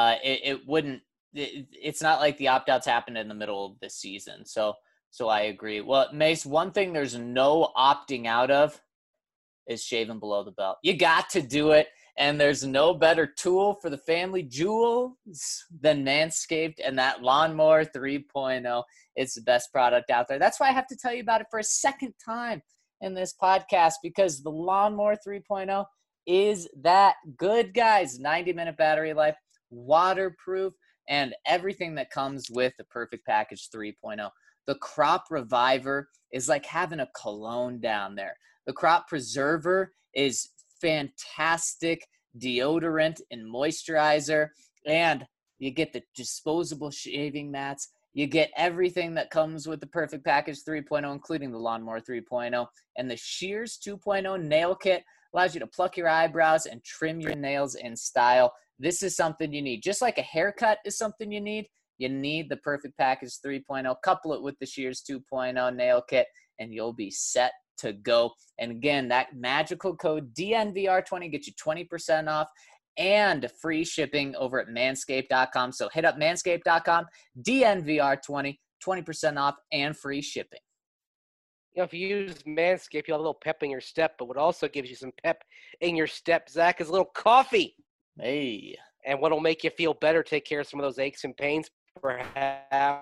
It's not like the opt-outs happened in the middle of the season. So I agree. Well, Mace, one thing there's no opting out of is shaving below the belt. You got to do it. And there's no better tool for the family jewels than Manscaped and that Lawnmower 3.0. It's the best product out there. That's why I have to tell you about it for a second time in this podcast, because the Lawnmower 3.0 is that good, guys. 90-minute battery life, waterproof, and everything that comes with the Perfect Package 3.0. The Crop Reviver is like having a cologne down there. The Crop Preserver is fantastic deodorant and moisturizer, and you get the disposable shaving mats. You get everything that comes with the Perfect Package 3.0, including the Lawnmower 3.0, and the Shears 2.0 nail kit allows you to pluck your eyebrows and trim your nails in style. This is something you need. Just like a haircut is something you need the Perfect Package 3.0. Couple it with the Shears 2.0 nail kit, and you'll be set to go. And again, that magical code DNVR20 gets you 20% off and free shipping over at manscaped.com. So hit up manscaped.com, DNVR20, 20% off and free shipping. You know, if you use Manscaped, you'll have a little pep in your step, but what also gives you some pep in your step, Zach, is a little coffee. Hey. And what'll make you feel better, take care of some of those aches and pains, perhaps,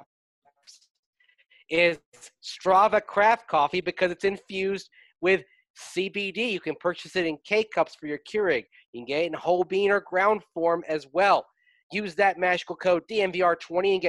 is Strava Craft Coffee, because it's infused with CBD. You can purchase it in K-Cups for your Keurig. You can get it in whole bean or ground form as well. Use that magical code DNVR20 and get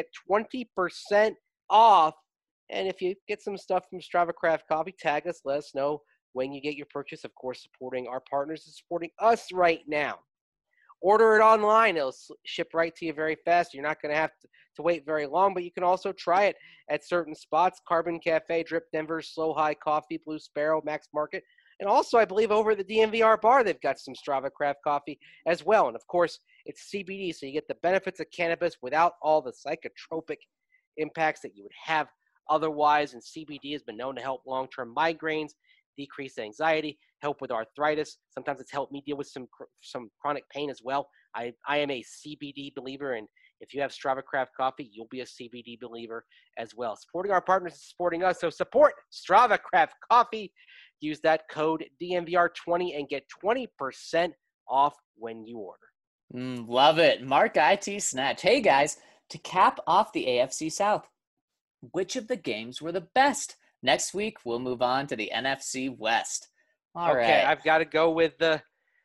20% off. And if you get some stuff from Strava Craft Coffee, tag us, let us know when you get your purchase. Of course, supporting our partners and supporting us right now. Order it online. It'll ship right to you very fast. You're not going to have to wait very long, but you can also try it at certain spots: Carbon Cafe, Drip Denver, Slow High Coffee, Blue Sparrow, Max Market. And also, I believe, over at the DNVR bar, they've got some Strava Craft Coffee as well. And, of course, it's CBD, so you get the benefits of cannabis without all the psychotropic impacts that you would have otherwise. And CBD has been known to help long-term migraines, decrease anxiety, help with arthritis. Sometimes it's helped me deal with some chronic pain as well. I am a CBD believer, and if you have Strava Craft Coffee, you'll be a CBD believer as well. Supporting our partners is supporting us, so support Strava Craft Coffee. Use that code DNVR20 and get 20% off when you order. Love it. Mark IT Snatch. Hey, guys, to cap off the AFC South, which of the games were the best? Next week, we'll move on to the NFC West. All right. I've got to go with that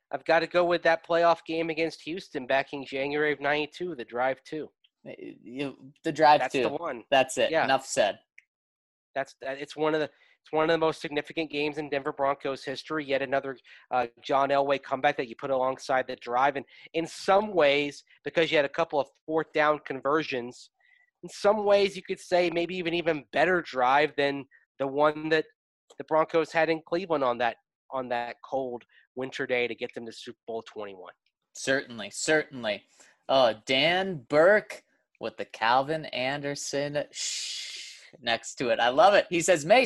playoff game against Houston back in January of '92, the Drive 2. The Drive 2. That's the one. That's it. Yeah. Enough said. It's one of the most significant games in Denver Broncos history. Yet another John Elway comeback that you put alongside the Drive. And in some ways, because you had a couple of fourth down conversions, in some ways you could say maybe even better drive than the one that the Broncos had in Cleveland on that cold winter day to get them to Super Bowl 21. Certainly. Oh, Dan Burke with the Calvin Anderson next to it. I love it. He says, Mace,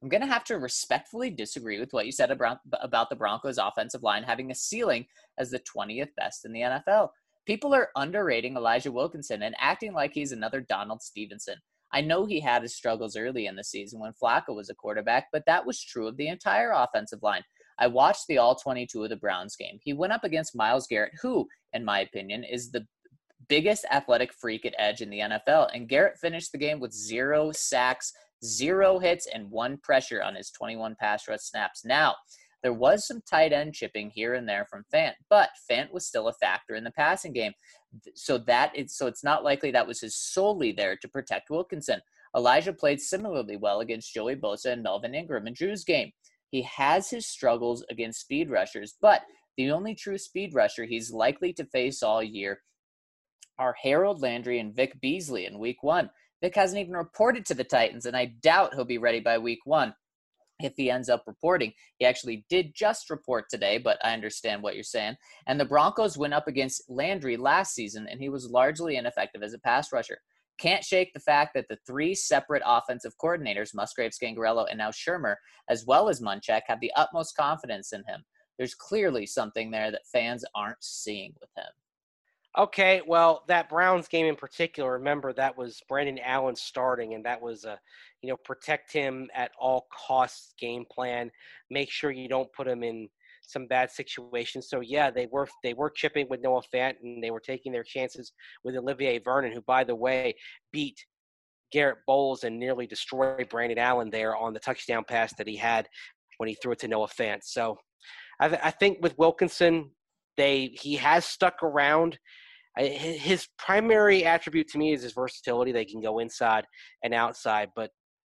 I'm going to have to respectfully disagree with what you said about the Broncos offensive line having a ceiling as the 20th best in the NFL. People are underrating Elijah Wilkinson and acting like he's another Donald Stevenson. I know he had his struggles early in the season when Flacco was a quarterback, but that was true of the entire offensive line. I watched the all 22 of the Browns game. He went up against Myles Garrett, who, in my opinion, is the biggest athletic freak at edge in the NFL. And Garrett finished the game with 0 sacks, 0 hits, and 1 pressure on his 21 pass rush snaps. Now, there was some tight end chipping here and there from Fant, but Fant was still a factor in the passing game. So it's not likely that was his solely there to protect Wilkinson. Elijah played similarly well against Joey Bosa and Melvin Ingram in Drew's game. He has his struggles against speed rushers, but the only true speed rusher he's likely to face all year are Harold Landry and Vic Beasley in week 1. Vic hasn't even reported to the Titans, and I doubt he'll be ready by week 1 if he ends up reporting. He actually did just report today, but I understand what you're saying. And the Broncos went up against Landry last season, and he was largely ineffective as a pass rusher. Can't shake the fact that the 3 separate offensive coordinators, Musgrave, Scangarello, and now Shermer, as well as Munchak, have the utmost confidence in him. There's clearly something there that fans aren't seeing with him. Okay, well, that Browns game in particular, remember that was Brandon Allen starting, and that was a, protect him at all costs game plan. Make sure you don't put him in some bad situations. So yeah, they were chipping with Noah Fant, and they were taking their chances with Olivier Vernon, who, by the way, beat Garrett Bowles and nearly destroyed Brandon Allen there on the touchdown pass that he had when he threw it to Noah Fant. So I think with Wilkinson, he has stuck around. His primary attribute to me is his versatility. They can go inside and outside, but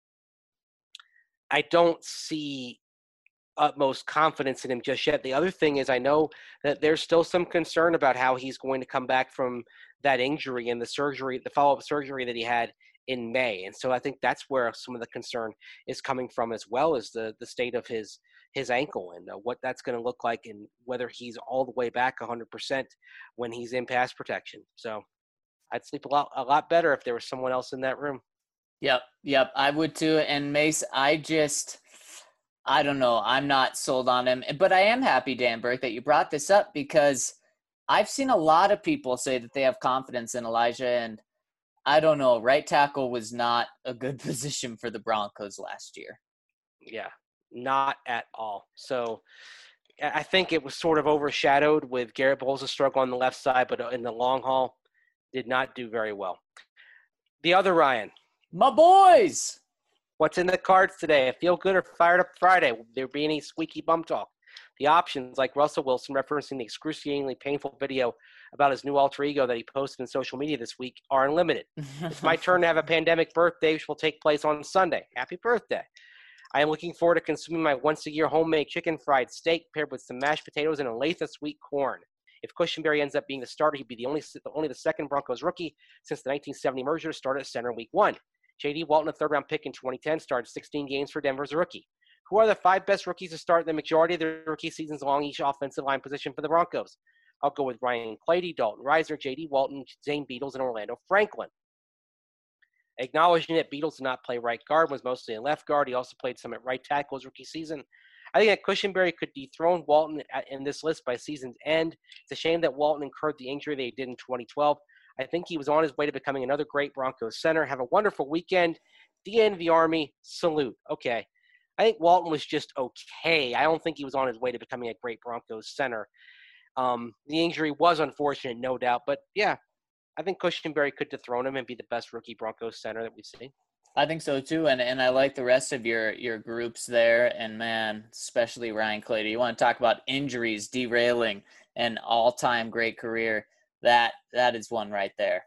I don't see utmost confidence in him just yet. The other thing is I know that there's still some concern about how he's going to come back from that injury and the follow-up surgery that he had in May. And so I think that's where some of the concern is coming from, as well as the state of his ankle and what that's going to look like and whether he's all the way back 100% when he's in pass protection. So I'd sleep a lot better if there was someone else in that room. Yep, I would too. And Mace, I don't know. I'm not sold on him, but I am happy, Dan Burke, that you brought this up, because I've seen a lot of people say that they have confidence in Elijah, and I don't know. Right tackle was not a good position for the Broncos last year. Yeah, not at all. So I think it was sort of overshadowed with Garrett Bowles' struggle on the left side, but in the long haul, did not do very well. The other Ryan. My boys! What's in the cards today? A feel good or fired up Friday? Will there be any squeaky bum talk? The options, like Russell Wilson referencing the excruciatingly painful video about his new alter ego that he posted on social media this week, are unlimited. It's my turn to have a pandemic birthday, which will take place on Sunday. Happy birthday. I am looking forward to consuming my once-a-year homemade chicken fried steak paired with some mashed potatoes and a lathe of sweet corn. If Cushenberry ends up being the starter, he'd be only the second Broncos rookie since the 1970 merger to start at center in week 1. J.D. Walton, a third-round pick in 2010, started 16 games for Denver as a rookie. Who are the 5 best rookies to start the majority of their rookie seasons along each offensive line position for the Broncos? I'll go with Ryan Clady, Dalton Risner, J.D. Walton, Zane Beadles, and Orlando Franklin. Acknowledging that Beadles did not play right guard, was mostly in left guard. He also played some at right tackle his rookie season. I think that Cushenberry could dethrone Walton in this list by season's end. It's a shame that Walton incurred the injury that he did in 2012. I think he was on his way to becoming another great Broncos center. Have a wonderful weekend. The end of the Army. Salute. Okay. I think Walton was just okay. I don't think he was on his way to becoming a great Broncos center. The injury was unfortunate, no doubt. But, yeah, I think Cushenberry could dethrone him and be the best rookie Broncos center that we've seen. I think so, too. And I like the rest of your groups there. And, man, especially Ryan Clady. You want to talk about injuries derailing an all-time great career. That is one right there.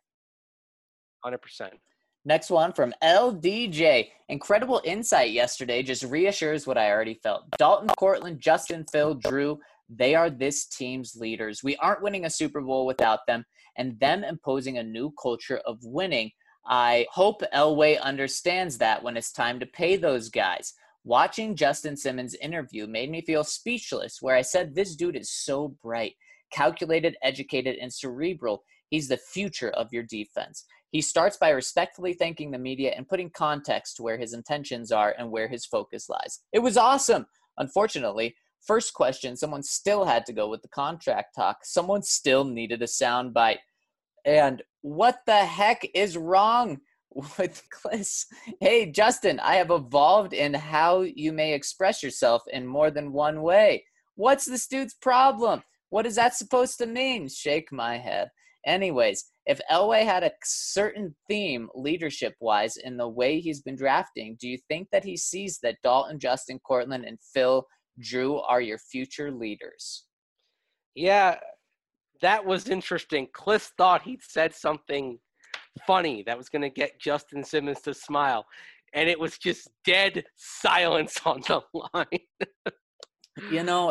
100%. Next one from LDJ. Incredible insight yesterday. Just reassures what I already felt. Dalton, Cortland, Justin, Phil, Drew, they are this team's leaders. We aren't winning a Super Bowl without them, and them imposing a new culture of winning. I hope Elway understands that when it's time to pay those guys. Watching Justin Simmons' interview made me feel speechless, where I said this dude is so bright, calculated, educated, and cerebral. He's the future of your defense. He starts by respectfully thanking the media and putting context to where his intentions are and where his focus lies. It was awesome. Unfortunately, first question, someone still had to go with the contract talk. Someone still needed a soundbite. And what the heck is wrong with Kliss? Hey, Justin, I have evolved in how you may express yourself in more than one way. What's this dude's problem? What is that supposed to mean? Shake my head. Anyways, if Elway had a certain theme leadership-wise in the way he's been drafting, do you think that he sees that Dalton, Justin, Cortland, and Phil Drew are your future leaders? Yeah, that was interesting. Kliss thought he'd said something funny that was going to get Justin Simmons to smile, and it was just dead silence on the line. You know,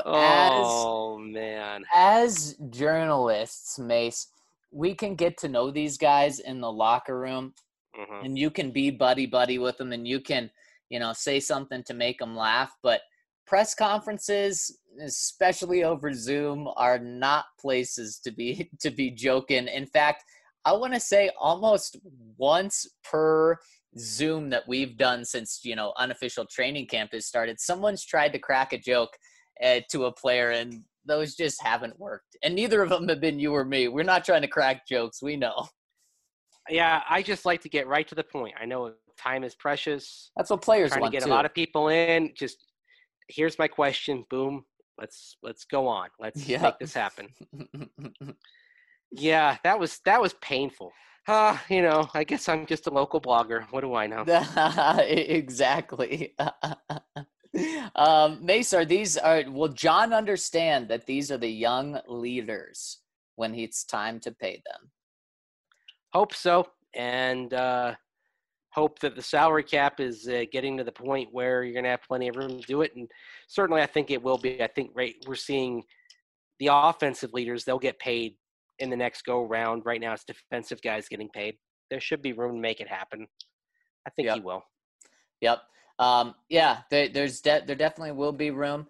as journalists, Mace, we can get to know these guys in the locker room, and you can be buddy with them, and you can, say something to make them laugh. But press conferences, especially over Zoom, are not places to be joking. In fact, I want to say almost once per Zoom that we've done since, unofficial training camp has started, someone's tried to crack a joke to a player, and those just haven't worked. And neither of them have been you or me. We're not trying to crack jokes. We know. Yeah, I just like to get right to the point. I know time is precious. That's what players want, trying to get a lot of people in. Just, here's my question. Boom. Let's go on. Let's make this happen. Yeah, that was painful. I guess I'm just a local blogger. What do I know? Exactly. Mace, will John understand that these are the young leaders when it's time to pay them? Hope so. And hope that the salary cap is getting to the point where you're going to have plenty of room to do it. And certainly I think it will be. I think we're seeing the offensive leaders, they'll get paid in the next go round. Right now it's defensive guys getting paid. There should be room to make it happen. I think he will. Yep. There definitely will be room.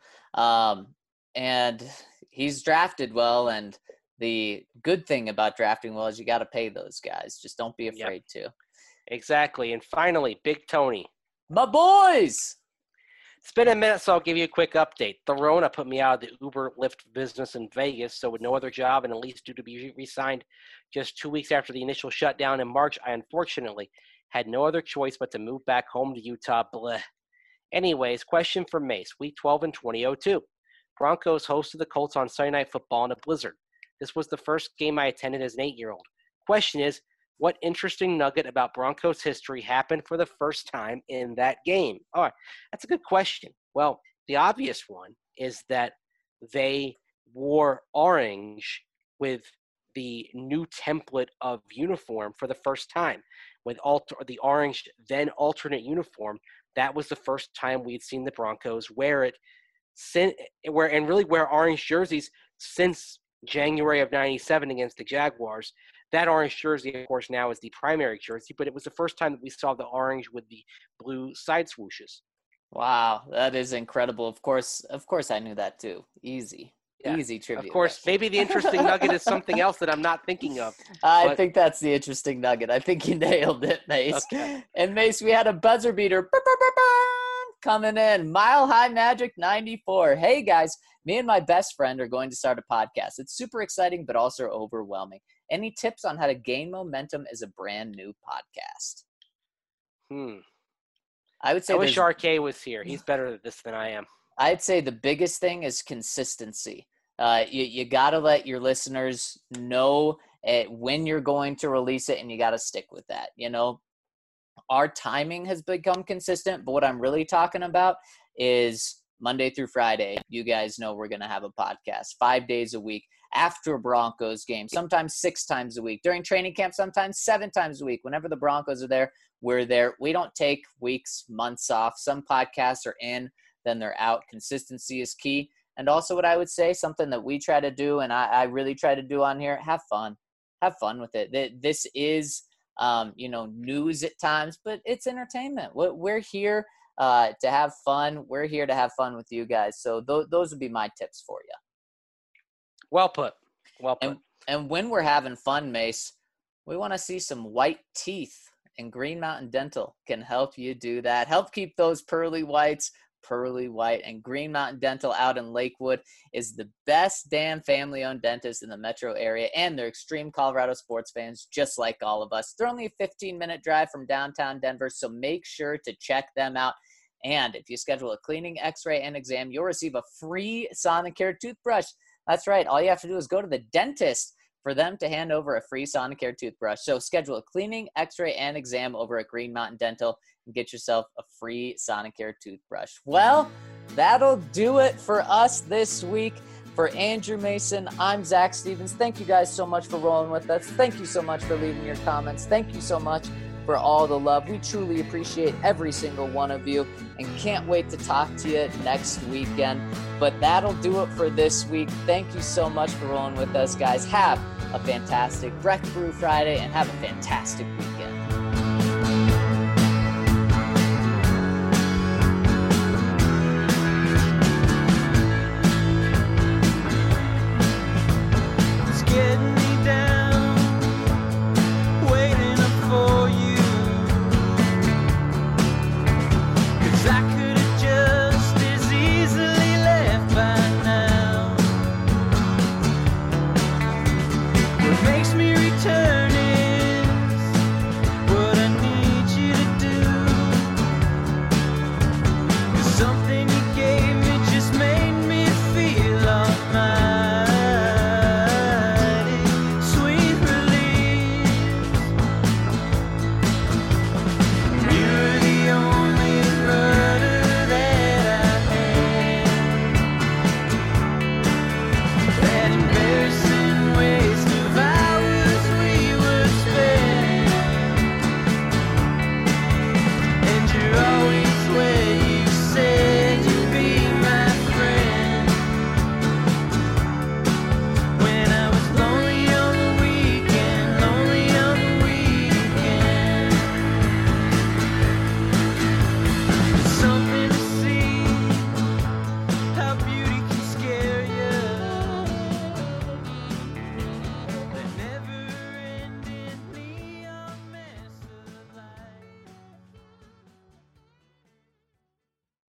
And he's drafted well, and the good thing about drafting well is you got to pay those guys. Just don't be afraid to. Exactly. And finally, Big Tony. My boys! It's been a minute, so I'll give you a quick update. The Rona put me out of the Uber Lyft business in Vegas, so with no other job and at least due to be re-signed just 2 weeks after the initial shutdown in March, I unfortunately had no other choice but to move back home to Utah. Bleh. Anyways, question for Mace. Week 12 in 2002. Broncos hosted the Colts on Sunday Night Football in a blizzard. This was the first game I attended as an 8-year-old. Question is, what interesting nugget about Broncos history happened for the first time in that game? All right, that's a good question. Well, the obvious one is that they wore orange with the new template of uniform for the first time. With the orange, then alternate uniform, that was the first time we'd seen the Broncos wear it, wear orange jerseys since January of '97 against the Jaguars. That orange jersey, of course, now is the primary jersey, but it was the first time that we saw the orange with the blue side swooshes. Wow, that is incredible. Of course, I knew that too. Easy trivia. Of course, maybe the interesting nugget is something else that I'm not thinking of. I think that's the interesting nugget. I think you nailed it, Mace. Okay. And Mace, we had a buzzer beater coming in. Mile High Magic 94. Hey guys, me and my best friend are going to start a podcast. It's super exciting, but also overwhelming. Any tips on how to gain momentum as a brand new podcast? I would say I wish RK was here. He's better at this than I am. I'd say the biggest thing is consistency. You got to let your listeners know when you're going to release it, and you got to stick with that. Our timing has become consistent, but what I'm really talking about is Monday through Friday. You guys know we're going to have a podcast 5 days a week after a Broncos game, sometimes 6 times a week. During training camp, sometimes 7 times a week. Whenever the Broncos are there, we're there. We don't take weeks, months off. Some podcasts are in, then they're out. Consistency is key. And also what I would say, something that we try to do, and I really try to do on here, have fun. Have fun with it. This is, news at times, but it's entertainment. We're here to have fun. We're here to have fun with you guys. So those would be my tips for you. Well put. And when we're having fun, Mace, we want to see some white teeth, and Green Mountain Dental can help you do that. Help keep those pearly whites pearly white. And Green Mountain Dental out in Lakewood is the best damn family-owned dentist in the metro area, and they're extreme Colorado sports fans just like all of us. They're only a 15-minute drive from downtown Denver, so make sure to check them out. And if you schedule a cleaning, x-ray, and exam, you'll receive a free Sonicare toothbrush. That's right. All you have to do is go to the dentist for them to hand over a free Sonicare toothbrush. So schedule a cleaning, x-ray, and exam over at Green Mountain Dental and get yourself a free Sonicare toothbrush. Well, that'll do it for us this week. For Andrew Mason, I'm Zach Stevens. Thank you guys so much for rolling with us. Thank you so much for leaving your comments. Thank you so much for all the love. We truly appreciate every single one of you and can't wait to talk to you next weekend. But that'll do it for this week. Thank you so much for rolling with us, guys. Have a fantastic Breck Brew Friday and have a fantastic weekend. It's getting me down, waiting up for you. 'Cause I couldn't